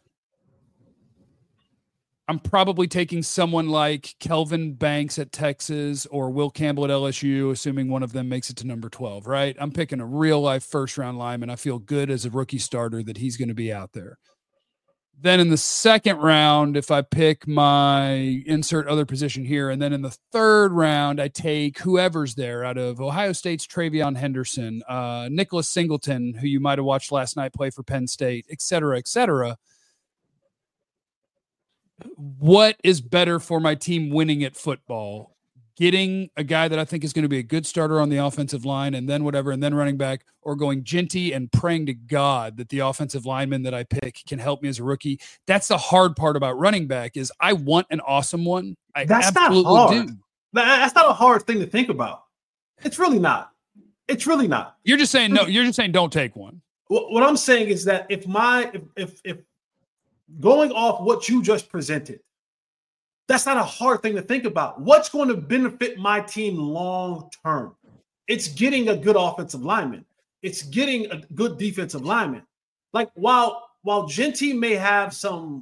Speaker 1: I'm probably taking someone like Kelvin Banks at Texas or Will Campbell at L S U, assuming one of them makes it to number twelve, right? I'm picking a real life first round lineman. I feel good as a rookie starter that he's going to be out there. Then in the second round, if I pick my insert other position here, and then in the third round, I take whoever's there out of Ohio State's Travion Henderson, uh, Nicholas Singleton, who you might have watched last night play for Penn State, et cetera, et cetera. What is better for my team winning at football? Getting a guy that I think is going to be a good starter on the offensive line and then whatever, and then running back, or going Ginty and praying to God that the offensive lineman that I pick can help me as a rookie. That's the hard part about running back is I want an awesome one. I
Speaker 2: That's
Speaker 1: absolutely
Speaker 2: not hard.
Speaker 1: do.
Speaker 2: That's not a hard thing to think about. It's really not. It's really not.
Speaker 1: You're just saying, no, you're just saying don't take one.
Speaker 2: What, what I'm saying is that if my, if, if, if going off what you just presented, that's not a hard thing to think about. What's going to benefit my team long term? It's getting a good offensive lineman. It's getting a good defensive lineman. Like while while Ginty may have some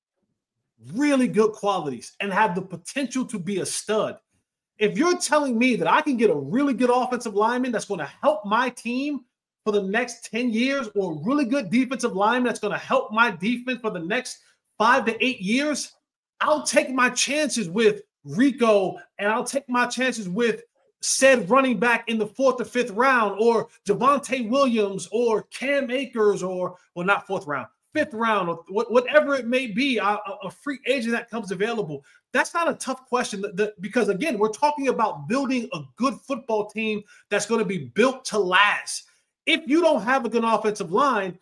Speaker 2: really good qualities and have the potential to be a stud, if you're telling me that I can get a really good offensive lineman that's going to help my team for the next ten years, or a really good defensive lineman that's going to help my defense for the next five to eight years, I'll take my chances with Rico, and I'll take my chances with said running back in the fourth or fifth round, or Javonte Williams, or Cam Akers, or, well, not fourth round, fifth round, or whatever it may be, a, a free agent that comes available. That's not a tough question because, again, we're talking about building a good football team that's going to be built to last. If you don't have a good offensive line,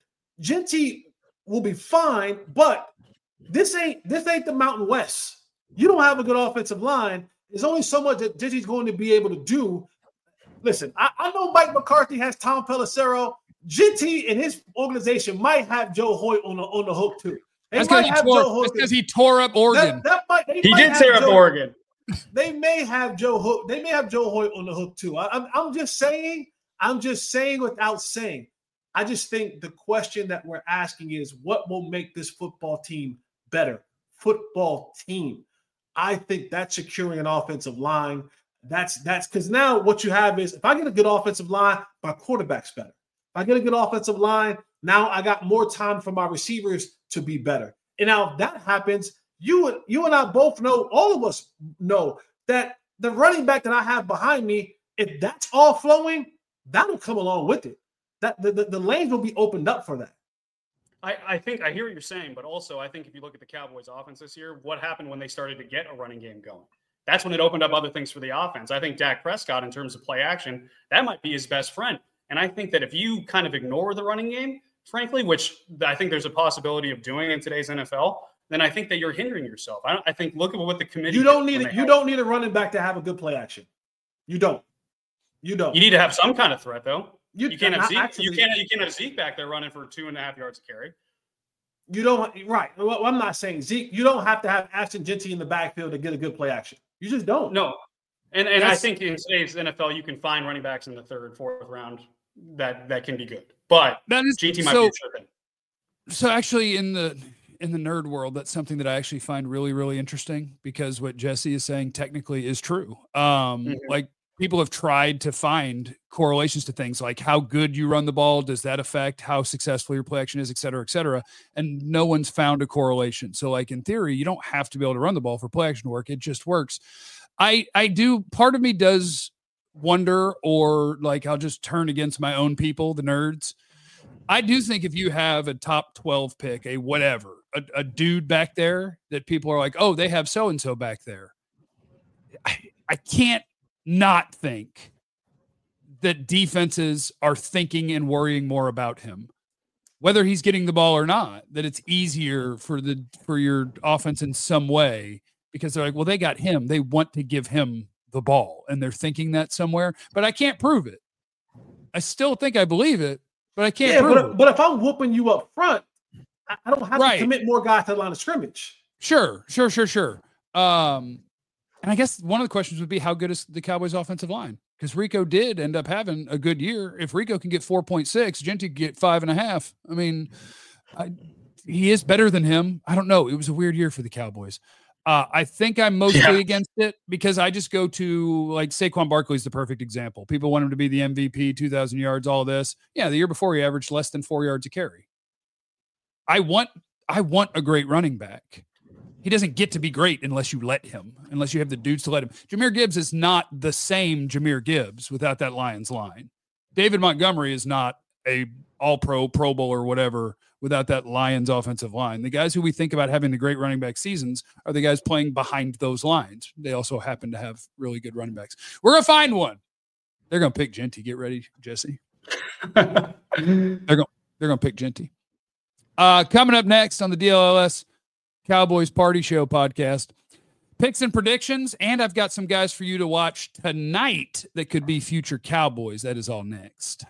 Speaker 2: Ginty will be fine, but This ain't this ain't the Mountain West. You don't have a good offensive line. There's only so much that Ginty's going to be able to do. Listen, I, I know Mike McCarthy has Tom Pelissero. Ginty and his organization might have Joe Hoyt on the on the hook too. They
Speaker 1: That's
Speaker 2: might have Joe Hoyt
Speaker 1: because he tore up Oregon.
Speaker 2: That, that might,
Speaker 5: he
Speaker 2: might
Speaker 5: did tear up
Speaker 2: Joe,
Speaker 5: Oregon.
Speaker 2: They may have Joe Hook. They may have Joe Hoyt on the hook too. I, I'm I'm just saying. I'm just saying without saying. I just think the question that we're asking is what will make this football team better? Football team. I think that's securing an offensive line. That's that's because now what you have is if I get a good offensive line, my quarterback's better. If I get a good offensive line, now I got more time for my receivers to be better. And now if that happens, you you and I both know, all of us know that the running back that I have behind me, if that's all flowing, that'll come along with it. That the, the, the lanes will be opened up for that.
Speaker 5: I, I think I hear what you're saying, but also I think if you look at the Cowboys offense this year, what happened when they started to get a running game going? That's when it opened up other things for the offense. I think Dak Prescott, in terms of play action, that might be his best friend. And I think that if you kind of ignore the running game, frankly, which I think there's a possibility of doing in today's N F L, then I think that you're hindering yourself. I, don't, I think look at what the committee.
Speaker 2: You don't need it. You don't need a running back to have a good play action. You don't. You don't.
Speaker 5: You need to have some kind of threat, though. You, you can't have Zeke.
Speaker 2: Actually,
Speaker 5: you can't. You can't have Zeke back there running for two and a half yards a carry.
Speaker 2: You don't. Right. Well, I'm not saying Zeke. You don't have to have Ashton Ginty in the backfield to get a good play action. You just don't.
Speaker 5: No. And and That's, I think in today's N F L, you can find running backs in the third, fourth round that that can be good. But
Speaker 1: that is,
Speaker 5: G T might
Speaker 1: so,
Speaker 5: be a sure thing.
Speaker 1: So actually, in the in the nerd world, that's something that I actually find really, really interesting because what Jesse is saying technically is true. Um, mm-hmm. Like. People have tried to find correlations to things like how good you run the ball. Does that affect how successful your play action is, et cetera, et cetera. And no one's found a correlation. So like in theory, you don't have to be able to run the ball for play action to work. It just works. I, I do. Part of me does wonder, or like, I'll just turn against my own people, the nerds. I do think if you have a top twelve pick, a whatever, a, a dude back there that people are like, oh, they have so-and-so back there. I, I can't not think that defenses are thinking and worrying more about him, whether he's getting the ball or not, that it's easier for the, for your offense in some way because they're like, well, they got him. They want to give him the ball and they're thinking that somewhere, but I can't prove it. I still think I believe it, but I can't
Speaker 2: yeah,
Speaker 1: prove
Speaker 2: but,
Speaker 1: it.
Speaker 2: But if I'm whooping you up front, I don't have
Speaker 1: right.
Speaker 2: to commit more guys to the line of scrimmage.
Speaker 1: Sure, sure, sure, sure. Um, And I guess one of the questions would be how good is the Cowboys offensive line? Because Rico did end up having a good year. If Rico can get four point six, Ginty can get five and a half. I mean, I, he is better than him. I don't know. It was a weird year for the Cowboys. Uh, I think I'm mostly yeah. against it because I just go to like Saquon Barkley is the perfect example. People want him to be the M V P, two thousand yards, all this. Yeah. The year before he averaged less than four yards a carry. I want, I want a great running back. He doesn't get to be great unless you let him, unless you have the dudes to let him. Jahmyr Gibbs is not the same Jahmyr Gibbs without that Lions line. David Montgomery is not a all-pro, Pro Bowl or whatever without that Lions offensive line. The guys who we think about having the great running back seasons are the guys playing behind those lines. They also happen to have really good running backs. We're going to find one. They're going to pick Genty. Get ready, Jesse. they're going they're going to pick Genty. Uh, coming up next on the D L L S Cowboys Party Show podcast, picks and predictions, and I've got some guys for you to watch tonight that could be future Cowboys. That is all next.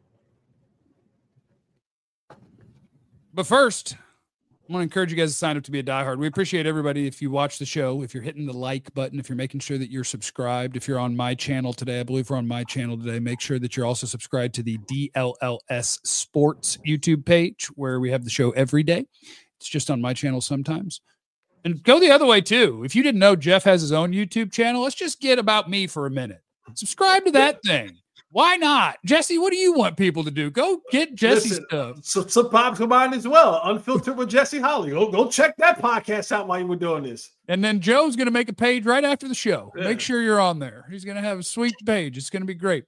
Speaker 1: But first, I want to encourage you guys to sign up to be a diehard. We appreciate everybody if you watch the show, if you're hitting the like button, if you're making sure that you're subscribed, if you're on my channel today. I believe we're on my channel today. Make sure that you're also subscribed to the D L L S Sports YouTube page where we have the show every day. It's just on my channel sometimes. And go the other way too. If you didn't know Jeff has his own YouTube channel, let's just get about me for a minute. Subscribe to that thing. Why not? Jesse, what do you want people to do? Go get Jesse's
Speaker 2: Listen,
Speaker 1: stuff.
Speaker 2: So, subscribe to mine as well. Unfiltered with Jesse Holly. Go, go check that podcast out while you were doing this.
Speaker 1: And then Joe's going to make a page right after the show.
Speaker 2: Yeah.
Speaker 1: Make sure you're on there. He's going to have a sweet page. It's going to be great.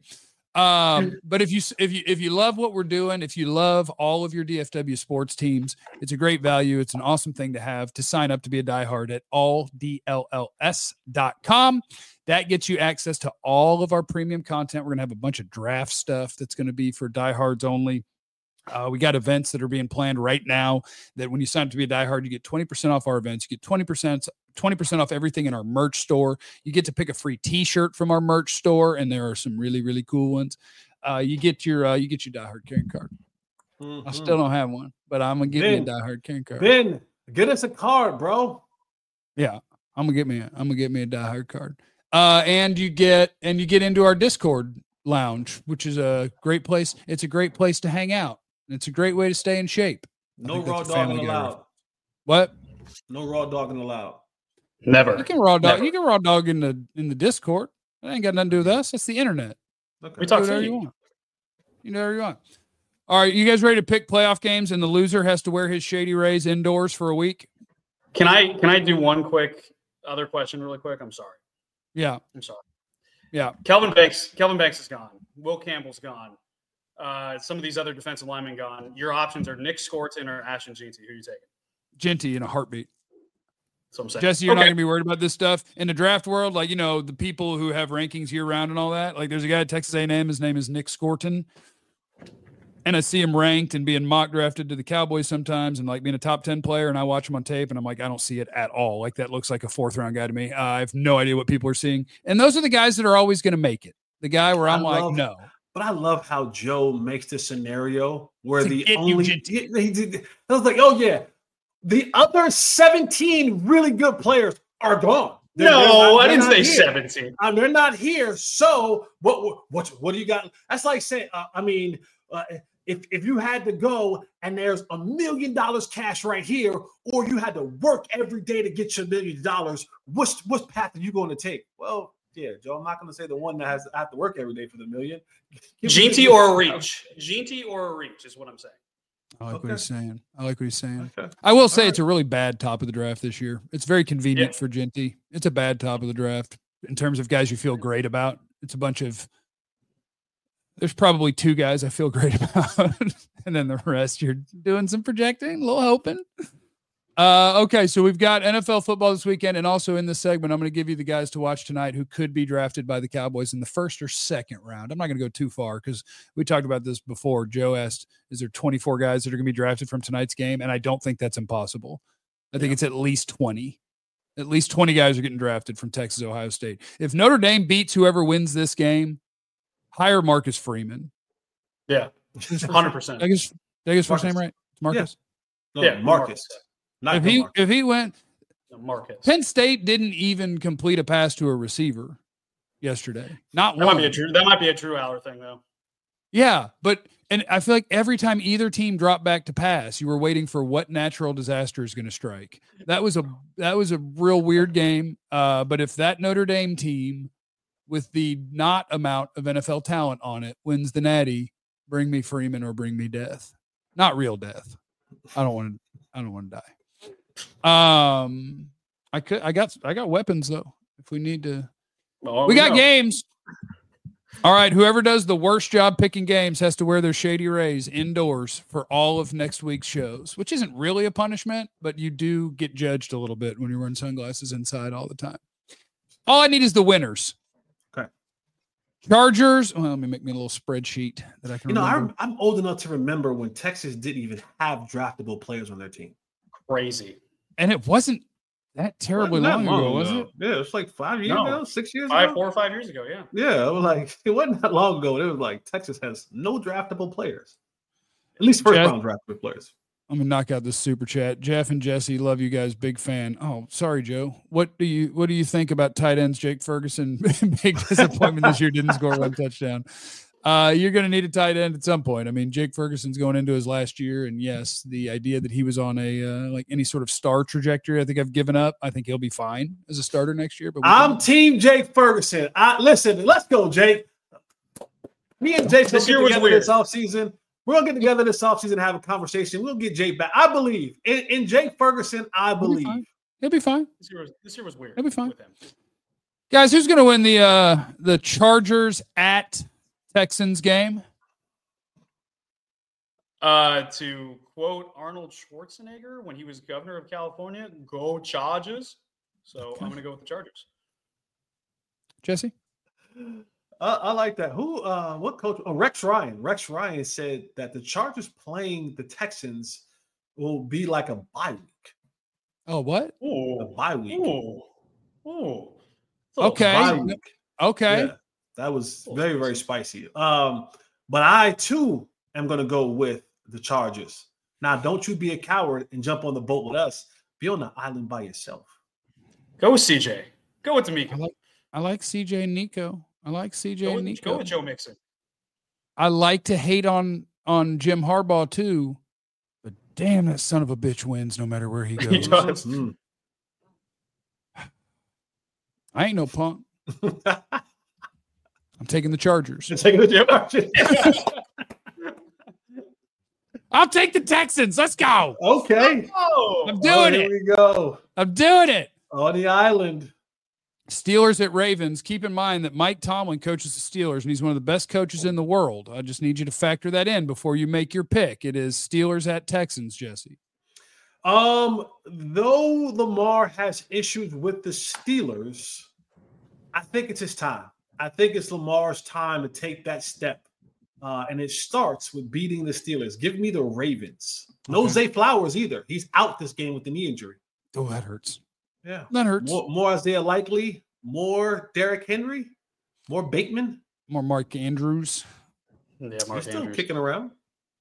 Speaker 1: Um, but if you if you if you love what we're doing, if you love all of your D F W sports teams, it's a great value. It's an awesome thing to have to sign up to be a diehard at all D L L S dot com. That gets you access to all of our premium content. We're going to have a bunch of draft stuff that's going to be for diehards only. Uh, we got events that are being planned right now that when you sign up to be a diehard, you get twenty percent off our events. You get twenty percent, twenty percent off everything in our merch store. You get to pick a free t-shirt from our merch store. And there are some really, really cool ones. Uh, you get your, uh, you get your diehard carrying card. Mm-hmm. I still don't have one, but I'm going to get ben, me a diehard carrying card.
Speaker 2: Ben, get us a card, bro.
Speaker 1: Yeah. I'm going to get me, a, I'm going to get me a diehard card. Uh, and you get, and you get into our Discord lounge, which is a great place. It's a great place to hang out. It's a great way to stay in shape.
Speaker 2: No raw dogging allowed.
Speaker 1: What?
Speaker 2: No raw dogging allowed.
Speaker 5: Never.
Speaker 1: You can raw dog.
Speaker 5: Never.
Speaker 1: You can raw dog in the in the Discord. That ain't got nothing to do with us. That's the internet.
Speaker 2: Okay.
Speaker 5: We talk
Speaker 1: whatever you want. You know whatever you want. All right, you guys ready to pick playoff games? And the loser has to wear his Shady Rays indoors for a week.
Speaker 5: Can I can I do one quick other question really quick? I'm sorry.
Speaker 1: Yeah,
Speaker 5: I'm sorry.
Speaker 1: Yeah,
Speaker 5: Kelvin Banks. Kelvin Banks is gone. Will Campbell's gone. Uh, some of these other defensive linemen gone. Your options are Nick Skorton or Ashton Genty. Who are you taking?
Speaker 1: Genty in a heartbeat.
Speaker 5: So I'm saying.
Speaker 1: Jesse, you're
Speaker 5: okay.
Speaker 1: not going to be worried about this stuff in the draft world. Like, you know, the people who have rankings year round and all that. Like, there's a guy at Texas A and M. His name is Nick Skorton. And I see him ranked and being mock drafted to the Cowboys sometimes and like being a top ten player. And I watch him on tape and I'm like, I don't see it at all. Like, that looks like a fourth round guy to me. Uh, I have no idea what people are seeing. And those are the guys that are always going to make it. The guy where I'm
Speaker 2: I
Speaker 1: like,
Speaker 2: love,
Speaker 1: no.
Speaker 2: But I love how Joe makes the scenario where
Speaker 1: To
Speaker 2: the
Speaker 1: get
Speaker 2: only
Speaker 1: you
Speaker 2: he, he did, I was like, oh yeah, the other seventeen really good players are gone. They're,
Speaker 5: no,
Speaker 2: they're not,
Speaker 5: I didn't say
Speaker 2: here.
Speaker 5: seventeen.
Speaker 2: Um, they're not here. So what? What? What do you got? That's like saying, uh, I mean, uh, if if you had to go and there's a million dollars cash right here, or you had to work every day to get your million dollars, which which path are you going to take? Well. Yeah, Joe, I'm not going to say the one that has I have to work every day for the million.
Speaker 5: Genty or a reach. Genty or a reach is what I'm saying.
Speaker 1: I like
Speaker 2: Okay.
Speaker 1: what he's saying. I like what he's saying.
Speaker 2: Okay.
Speaker 1: I will say
Speaker 2: All
Speaker 1: it's a really bad top of the draft this year. It's very convenient
Speaker 5: Yeah.
Speaker 1: for Genty. It's a bad top of the draft in terms of guys you feel great about. It's a bunch of there's probably two guys I feel great about. And then the rest you're doing some projecting, a little hoping. Uh, okay, so we've got N F L football this weekend, and also in this segment, I'm going to give you the guys to watch tonight who could be drafted by the Cowboys in the first or second round. I'm not going to go too far because we talked about this before. Joe asked, is there twenty-four guys that are going to be drafted from tonight's game? And I don't think that's impossible. I think yeah. it's at least twenty. At least twenty guys are getting drafted from Texas, Ohio State. If Notre Dame beats whoever wins this game, hire Marcus Freeman.
Speaker 5: Yeah, one hundred percent.
Speaker 1: Did I get his first name right? It's Marcus?
Speaker 2: Yeah, no,
Speaker 5: yeah
Speaker 2: Marcus.
Speaker 5: Marcus.
Speaker 2: Not
Speaker 1: if he
Speaker 2: Marcus.
Speaker 1: if he went
Speaker 5: no, Marcus.
Speaker 1: Penn State didn't even complete a pass to a receiver yesterday. Not
Speaker 5: that
Speaker 1: one.
Speaker 5: might be a true that might be a Drew Aller thing though.
Speaker 1: Yeah, but and I feel like every time either team dropped back to pass, you were waiting for what natural disaster is going to strike. That was a that was a real weird game. Uh, but if that Notre Dame team with the not amount of N F L talent on it wins the Natty, bring me Freeman or bring me death. Not real death. I don't want to I don't want to die. Um, I could. I got. I got weapons though. If we need to,
Speaker 5: Well,
Speaker 1: we got
Speaker 5: know.
Speaker 1: games. All right. Whoever does the worst job picking games has to wear their Shady Rays indoors for all of next week's shows, which isn't really a punishment, but you do get judged a little bit when you're wearing sunglasses inside all the time. All I need is the winners.
Speaker 2: Okay.
Speaker 1: Chargers. Well, let me make me a little spreadsheet that I can
Speaker 2: You know,
Speaker 1: remember.
Speaker 2: I'm, I'm old enough to remember when Texas didn't even have draftable players on their team.
Speaker 5: Crazy.
Speaker 1: And it wasn't that terribly
Speaker 2: Wasn't that
Speaker 1: long, ago, was it?
Speaker 2: Yeah, it was like five years
Speaker 5: No.
Speaker 2: ago, six years
Speaker 5: Five,
Speaker 2: ago.
Speaker 5: four or five years ago, yeah.
Speaker 2: Yeah, it was like it wasn't that long ago. It was like Texas has no draftable players, at least first
Speaker 1: Jeff-
Speaker 2: round draftable players.
Speaker 1: I'm gonna knock out this super chat. Jeff and Jesse, love you guys, big fan. Oh, sorry, Joe. What do you what do you think about tight ends? Jake Ferguson, big disappointment this year, didn't score one touchdown. Uh, you're gonna need a tight end at some point. I mean, Jake Ferguson's going into his last year, and yes, the idea that he was on a uh, like any sort of star trajectory, I think I've given up. I think he'll be fine as a starter next year. But we
Speaker 2: I'm
Speaker 1: can-
Speaker 2: Team Jake Ferguson. I listen. Let's go, Jake. Me and Jake
Speaker 5: This
Speaker 2: will
Speaker 5: year
Speaker 2: get
Speaker 5: was
Speaker 2: together
Speaker 5: weird.
Speaker 2: this offseason. We're gonna get together this offseason and have a conversation. We'll get Jake back. I believe in, in Jake Ferguson. I
Speaker 1: he'll be
Speaker 2: believe.
Speaker 1: fine. He'll be fine.
Speaker 5: This year was, this year was weird.
Speaker 1: He'll be fine.
Speaker 5: With him.
Speaker 1: Guys, who's gonna win the uh the Chargers at Texans game?
Speaker 5: Uh, to quote Arnold Schwarzenegger when he was governor of California, go Chargers. So
Speaker 1: Okay.
Speaker 5: I'm going to go with the Chargers.
Speaker 1: Jesse?
Speaker 2: I, I like that. Who? Uh, what coach? Oh, Rex Ryan. Rex Ryan said that the Chargers playing the Texans will be like a bye week.
Speaker 1: Oh, what?
Speaker 2: A
Speaker 5: Ooh.
Speaker 2: bye week.
Speaker 5: Ooh. Ooh.
Speaker 1: Okay.
Speaker 2: Bye week.
Speaker 1: Okay.
Speaker 2: Yeah, that was very, very spicy. Um, but I too am going to go with the Chargers. Now, don't you be a coward and jump on the boat with us. Be on the island by yourself.
Speaker 5: Go with C J. Go with D'Amico.
Speaker 1: I like I like C J and Nico. I like C J
Speaker 5: Go
Speaker 1: and
Speaker 5: with,
Speaker 1: Nico.
Speaker 5: go with Joe Mixon.
Speaker 1: I like to hate on on Jim Harbaugh too, but damn, that son of a bitch wins no matter where he
Speaker 5: He
Speaker 1: goes.
Speaker 5: does.
Speaker 2: Mm.
Speaker 1: I ain't no punk. I'm taking the Chargers.
Speaker 2: You're taking the Chargers.
Speaker 1: I'll take the Texans. Let's go.
Speaker 2: Okay.
Speaker 5: Oh,
Speaker 1: I'm
Speaker 2: Oh,
Speaker 1: doing
Speaker 2: here
Speaker 1: it.
Speaker 2: we go.
Speaker 1: I'm doing it.
Speaker 2: On the island.
Speaker 1: Steelers at Ravens. Keep in mind that Mike Tomlin coaches the Steelers, and he's one of the best coaches in the world. I just need you to factor that in before you make your pick. It is Steelers at Texans, Jesse.
Speaker 2: Um, though Lamar has issues with the Steelers, I think it's his time. I think it's Lamar's time to take that step. Uh, and it starts with beating the Steelers. Give me the Ravens. No
Speaker 1: Okay.
Speaker 2: Zay Flowers either. He's out this game with the knee injury.
Speaker 1: Oh, that hurts.
Speaker 2: Yeah.
Speaker 1: That hurts.
Speaker 2: More, more Isaiah Likely, more Derrick Henry, more Bateman.
Speaker 1: More Mark Andrews.
Speaker 5: Yeah,
Speaker 2: He's
Speaker 5: Mark
Speaker 2: still
Speaker 5: Andrews.
Speaker 2: kicking around.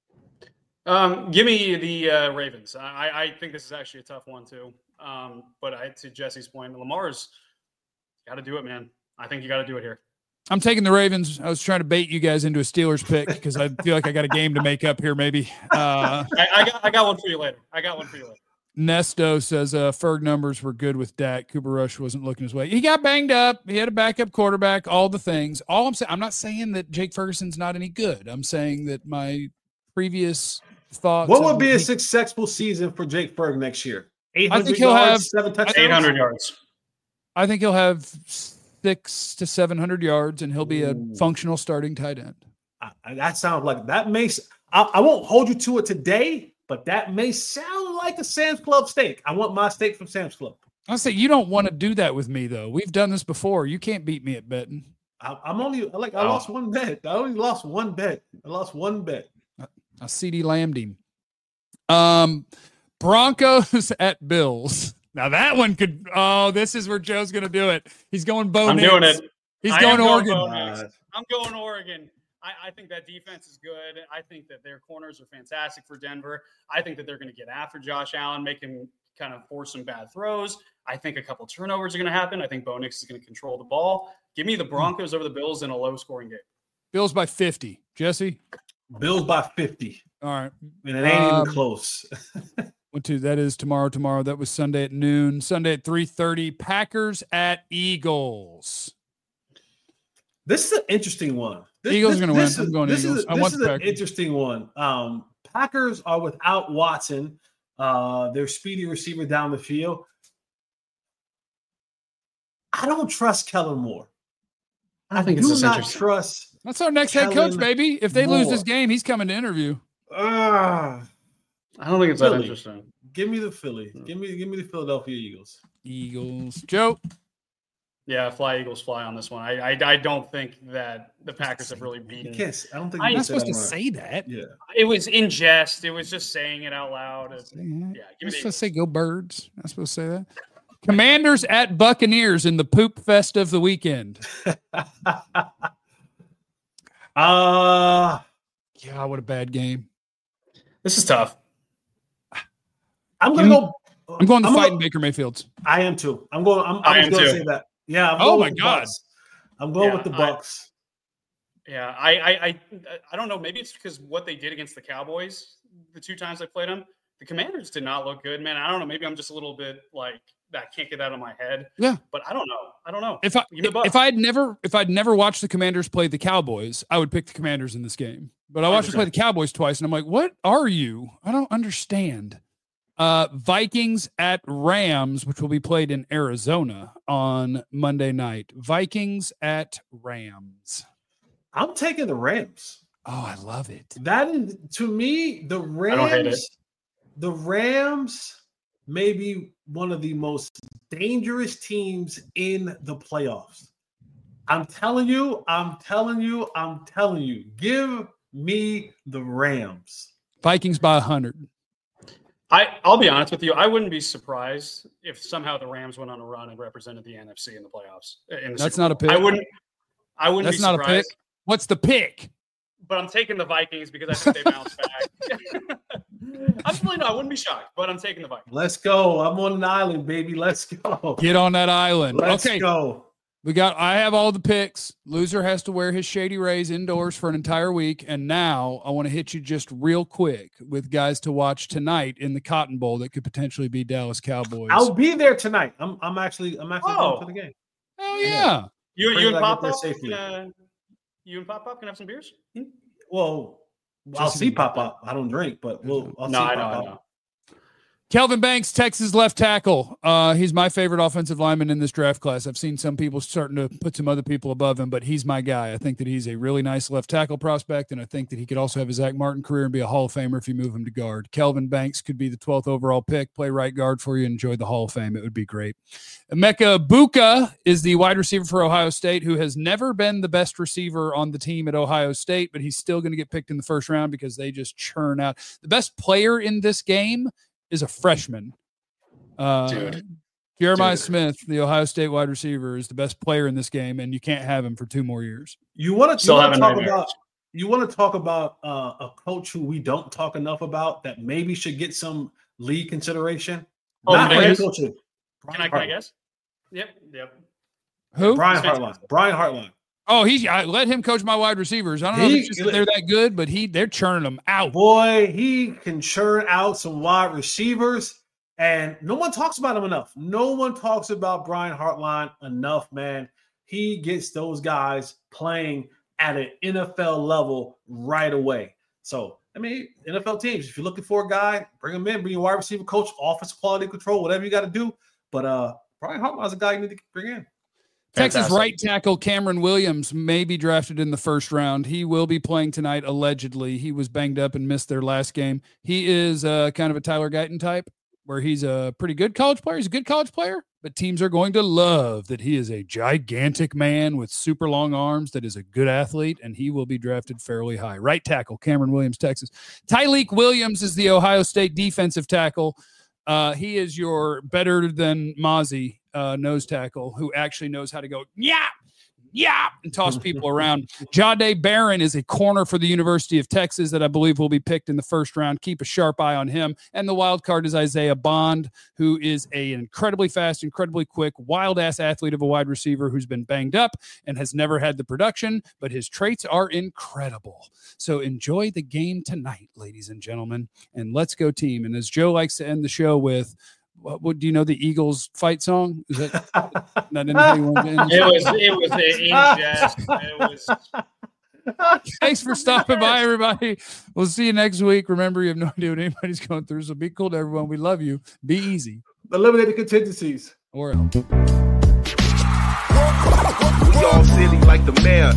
Speaker 5: Um, give me the uh, Ravens. I, I think this is actually a tough one too. Um, but I, to Jesse's point, Lamar's got to do it, man. I think you got to do it here.
Speaker 1: I'm taking the Ravens. I was trying to bait you guys into a Steelers pick because I feel like I got a game to make up here, maybe. Uh,
Speaker 5: I, I got I got one for you later. I got one for you later.
Speaker 1: Nesto says uh, Ferg numbers were good with Dak. Cooper Rush wasn't looking his way. He got banged up. He had a backup quarterback, all the things. All I'm saying, I'm not saying that Jake Ferguson's not any good. I'm saying that my previous thoughts.
Speaker 2: What
Speaker 1: of
Speaker 2: would be a
Speaker 1: he-
Speaker 2: successful season for Jake Ferg next year? eight
Speaker 1: I
Speaker 2: hundred
Speaker 1: think he'll
Speaker 2: yards,
Speaker 1: have-
Speaker 2: seven touchdowns.
Speaker 5: Eight hundred yards.
Speaker 1: I think he'll have six to seven hundred yards, and he'll be a
Speaker 2: Ooh.
Speaker 1: functional starting tight end.
Speaker 2: I, I- that sounds like that makes. I, I won't hold you to it today, but that may sound like a Sam's Club steak. I want my steak from Sam's Club.
Speaker 1: I say you don't want to do that with me, though. We've done this before. You can't beat me at betting.
Speaker 2: I, I'm only like I
Speaker 5: Oh.
Speaker 2: lost one bet. I only lost one bet. I lost one bet.
Speaker 1: I C D lambed him. Um, Broncos at Bills. Now that one could. Oh, this is where Joe's going to do it. He's going Bo
Speaker 5: I'm
Speaker 1: Nix.
Speaker 5: doing it.
Speaker 1: He's
Speaker 5: I
Speaker 1: going
Speaker 5: am
Speaker 1: Oregon.
Speaker 5: Bo Nix.
Speaker 2: Uh,
Speaker 5: I'm going Oregon. I, I think that defense is good. I think that their corners are fantastic for Denver. I think that they're going to get after Josh Allen, make him kind of force some bad throws. I think a couple turnovers are going to happen. I think Bo Nix is going to control the ball. Give me the Broncos over the Bills in a low-scoring game.
Speaker 1: Bills by fifty. Jesse.
Speaker 2: Bills by fifty,
Speaker 1: All right.
Speaker 2: and it ain't
Speaker 1: Um,
Speaker 2: even close.
Speaker 1: One, two. That is tomorrow. Tomorrow. That was Sunday at noon. Sunday at three thirty. Packers at Eagles.
Speaker 2: This is an interesting one. This,
Speaker 1: Eagles
Speaker 2: this,
Speaker 1: are gonna
Speaker 2: this
Speaker 1: win.
Speaker 2: is-
Speaker 1: I'm going
Speaker 2: this
Speaker 1: Eagles.
Speaker 2: Is,
Speaker 1: I
Speaker 2: this
Speaker 1: want
Speaker 2: is
Speaker 1: the
Speaker 2: an
Speaker 1: Packers.
Speaker 2: interesting one. Um, Packers are without Watson. uh, their speedy receiver down the field. I don't trust Kellen Moore. I,
Speaker 5: I think
Speaker 2: do
Speaker 5: it's
Speaker 2: not
Speaker 5: interesting.
Speaker 2: trust.
Speaker 1: That's our next head
Speaker 2: Kellen
Speaker 1: coach, baby. If they lose
Speaker 2: Moore.
Speaker 1: this game, he's coming to interview.
Speaker 2: Uh,
Speaker 5: I don't think it's that
Speaker 2: Philly.
Speaker 5: interesting.
Speaker 2: give me the Philly. Give me, give me the Philadelphia Eagles.
Speaker 1: Eagles. Joe.
Speaker 5: Yeah, fly Eagles fly on this one. I I, I don't think that the Packers have really
Speaker 2: You
Speaker 5: beaten.
Speaker 2: can't. I don't think
Speaker 5: I-
Speaker 2: you
Speaker 1: You're
Speaker 2: can
Speaker 1: not
Speaker 2: say
Speaker 1: supposed
Speaker 2: that
Speaker 1: to
Speaker 2: right.
Speaker 1: say that.
Speaker 2: Yeah.
Speaker 5: It was in jest. It was just saying it out loud. It's-
Speaker 1: Say that.
Speaker 5: Yeah, give
Speaker 1: You're
Speaker 5: me the
Speaker 1: supposed to
Speaker 5: Eagles.
Speaker 1: say go Birds. Not supposed to say that. Commanders at Buccaneers in the poop fest of the weekend.
Speaker 2: uh
Speaker 1: Yeah, what a bad game.
Speaker 5: This is tough.
Speaker 2: I'm gonna
Speaker 1: You-
Speaker 2: go.
Speaker 1: I'm going to
Speaker 2: I'm
Speaker 1: fight
Speaker 2: gonna-
Speaker 1: in Baker Mayfield's.
Speaker 2: I am too. I'm going. I'm,
Speaker 5: I
Speaker 2: I was
Speaker 5: am
Speaker 2: going to
Speaker 5: too.
Speaker 2: say that. Yeah. I'm
Speaker 1: Oh
Speaker 2: going
Speaker 1: my
Speaker 2: with the
Speaker 1: God.
Speaker 2: Bucks. I'm going
Speaker 5: Yeah,
Speaker 2: with the
Speaker 5: I-
Speaker 2: Bucks.
Speaker 5: Yeah, I, I I I don't know. Maybe it's because what they did against the Cowboys the two times they played them. The Commanders did not look good, man. I don't know. Maybe I'm just a little bit like that. Can't get out of my head.
Speaker 1: Yeah.
Speaker 5: but I don't know. I don't know.
Speaker 1: If I
Speaker 5: Give me the Bucks.
Speaker 1: if I had never if I'd never watched the Commanders play the Cowboys, I would pick the Commanders in this game. But I watched them play the Cowboys twice, and I'm like, what are you? I don't understand. Uh, Vikings at Rams, which will be played in Arizona on Monday night. Vikings at Rams.
Speaker 2: I'm taking the Rams.
Speaker 1: Oh, I love it.
Speaker 2: That is, to me, the
Speaker 5: don't hate it.
Speaker 2: Rams. The Rams may be one of the most dangerous teams in the playoffs. I'm telling you. I'm telling you. I'm telling you. Give me the Rams.
Speaker 1: Vikings by one hundred.
Speaker 5: I I'll be honest with you. I wouldn't be surprised if somehow the Rams went on a run and represented the N F C in the playoffs. In the
Speaker 1: That's
Speaker 5: Super
Speaker 1: not a
Speaker 5: Bowl.
Speaker 1: pick.
Speaker 5: I wouldn't. I wouldn't
Speaker 1: That's
Speaker 5: be
Speaker 1: not a pick.
Speaker 5: surprised.
Speaker 1: What's the pick?
Speaker 5: But I'm taking the Vikings because I think they bounce back. I'm really no, I wouldn't be shocked, but I'm taking the Vikings.
Speaker 2: Let's go. I'm on an island, baby. Let's go.
Speaker 1: Get on that island.
Speaker 2: Let's
Speaker 1: okay.
Speaker 2: go.
Speaker 1: We got, I have all the picks. Loser has to wear his Shady Rays indoors for an entire week. And now I want to hit you just real quick with guys to watch tonight in the Cotton Bowl that could potentially be Dallas Cowboys.
Speaker 2: I'll be there tonight. I'm. I'm actually. I'm actually
Speaker 5: Oh.
Speaker 2: going to the game.
Speaker 1: Hell yeah.
Speaker 5: You,
Speaker 2: Pray
Speaker 5: you and
Speaker 2: that I get
Speaker 5: Pop
Speaker 2: there
Speaker 5: Pop
Speaker 2: safely.
Speaker 5: can, uh, you and Pop Pop can have some beers. Hmm?
Speaker 2: Well, I'll
Speaker 1: Just-
Speaker 2: see Pop Up. I don't drink, but we'll. I'll
Speaker 5: No,
Speaker 2: see
Speaker 5: I know,
Speaker 2: Pop
Speaker 5: I
Speaker 2: Up.
Speaker 5: know.
Speaker 1: Kelvin Banks, Texas left tackle. Uh, he's my favorite offensive lineman in this draft class. I've seen some people starting to put some other people above him, but he's my guy. I think that he's a really nice left tackle prospect, and I think that he could also have a Zach Martin career and be a Hall of Famer if you move him to guard. Kelvin Banks could be the twelfth overall pick, play right guard for you, and enjoy the Hall of Fame. It would be great. Emeka Buka is the wide receiver for Ohio State, who has never been the best receiver on the team at Ohio State, but he's still going to get picked in the first round because they just churn out. The best player in this game is a freshman. Uh,
Speaker 5: Dude.
Speaker 1: Jeremiah
Speaker 5: Dude.
Speaker 1: Smith, the Ohio State wide receiver, is the best player in this game, and you can't have him for two more years.
Speaker 2: You want to
Speaker 5: Still
Speaker 2: talk
Speaker 5: having
Speaker 2: about?
Speaker 5: nightmares.
Speaker 2: You want to talk about uh, a coach who we don't talk enough about that maybe should get some league consideration?
Speaker 5: Oh,
Speaker 2: Not
Speaker 5: can I
Speaker 2: head
Speaker 5: guess?
Speaker 2: coaching.
Speaker 5: Can I, can I guess? Yep, yep.
Speaker 1: Who?
Speaker 2: Brian
Speaker 5: He's
Speaker 2: Hartline. Brian Hartline.
Speaker 1: Oh, he. I let him coach my wide receivers. I don't know if
Speaker 2: He-
Speaker 1: it's just that they're that good, but he they're churning them out.
Speaker 2: Boy, he can churn out some wide receivers, and no one talks about him enough. No one talks about Brian Hartline enough, man. He gets those guys playing at an N F L level right away. So, I mean, N F L teams, if you're looking for a guy, bring him in, bring your wide receiver coach, offensive quality control, whatever you got to do. But uh, Brian Hartline's a guy you need to bring in.
Speaker 1: Texas
Speaker 5: Fantastic.
Speaker 1: right tackle Cameron Williams may be drafted in the first round. He will be playing tonight, allegedly. He was banged up and missed their last game. He is uh, kind of a Tyler Guyton type, where he's a pretty good college player. He's a good college player, but teams are going to love that he is a gigantic man with super long arms that is a good athlete, and he will be drafted fairly high. Right tackle Cameron Williams, Texas. Tyleek Williams is the Ohio State defensive tackle. Uh, he is your better than Mozzie uh, nose tackle who actually knows how to go, yeah, yeah, and toss people around. Jahdae Barron is a corner for the University of Texas that I believe will be picked in the first round. Keep a sharp eye on him. And the wild card is Isaiah Bond, who is a incredibly fast, incredibly quick, wild-ass athlete of a wide receiver who's been banged up and has never had the production, but his traits are incredible. So enjoy the game tonight, ladies and gentlemen, and let's go team. And as Joe likes to end the show with, what, what do you know the Eagles fight song? Is that not how you want to end the
Speaker 5: It
Speaker 1: show?
Speaker 5: was it was a in jest. It was
Speaker 1: Thanks for stopping by, everybody. We'll see you next week. Remember, you have no idea what anybody's going through, so be cool to everyone. We love you. Be easy.
Speaker 2: Eliminate the contingencies.
Speaker 1: Or else.
Speaker 7: We all silly like the mayor.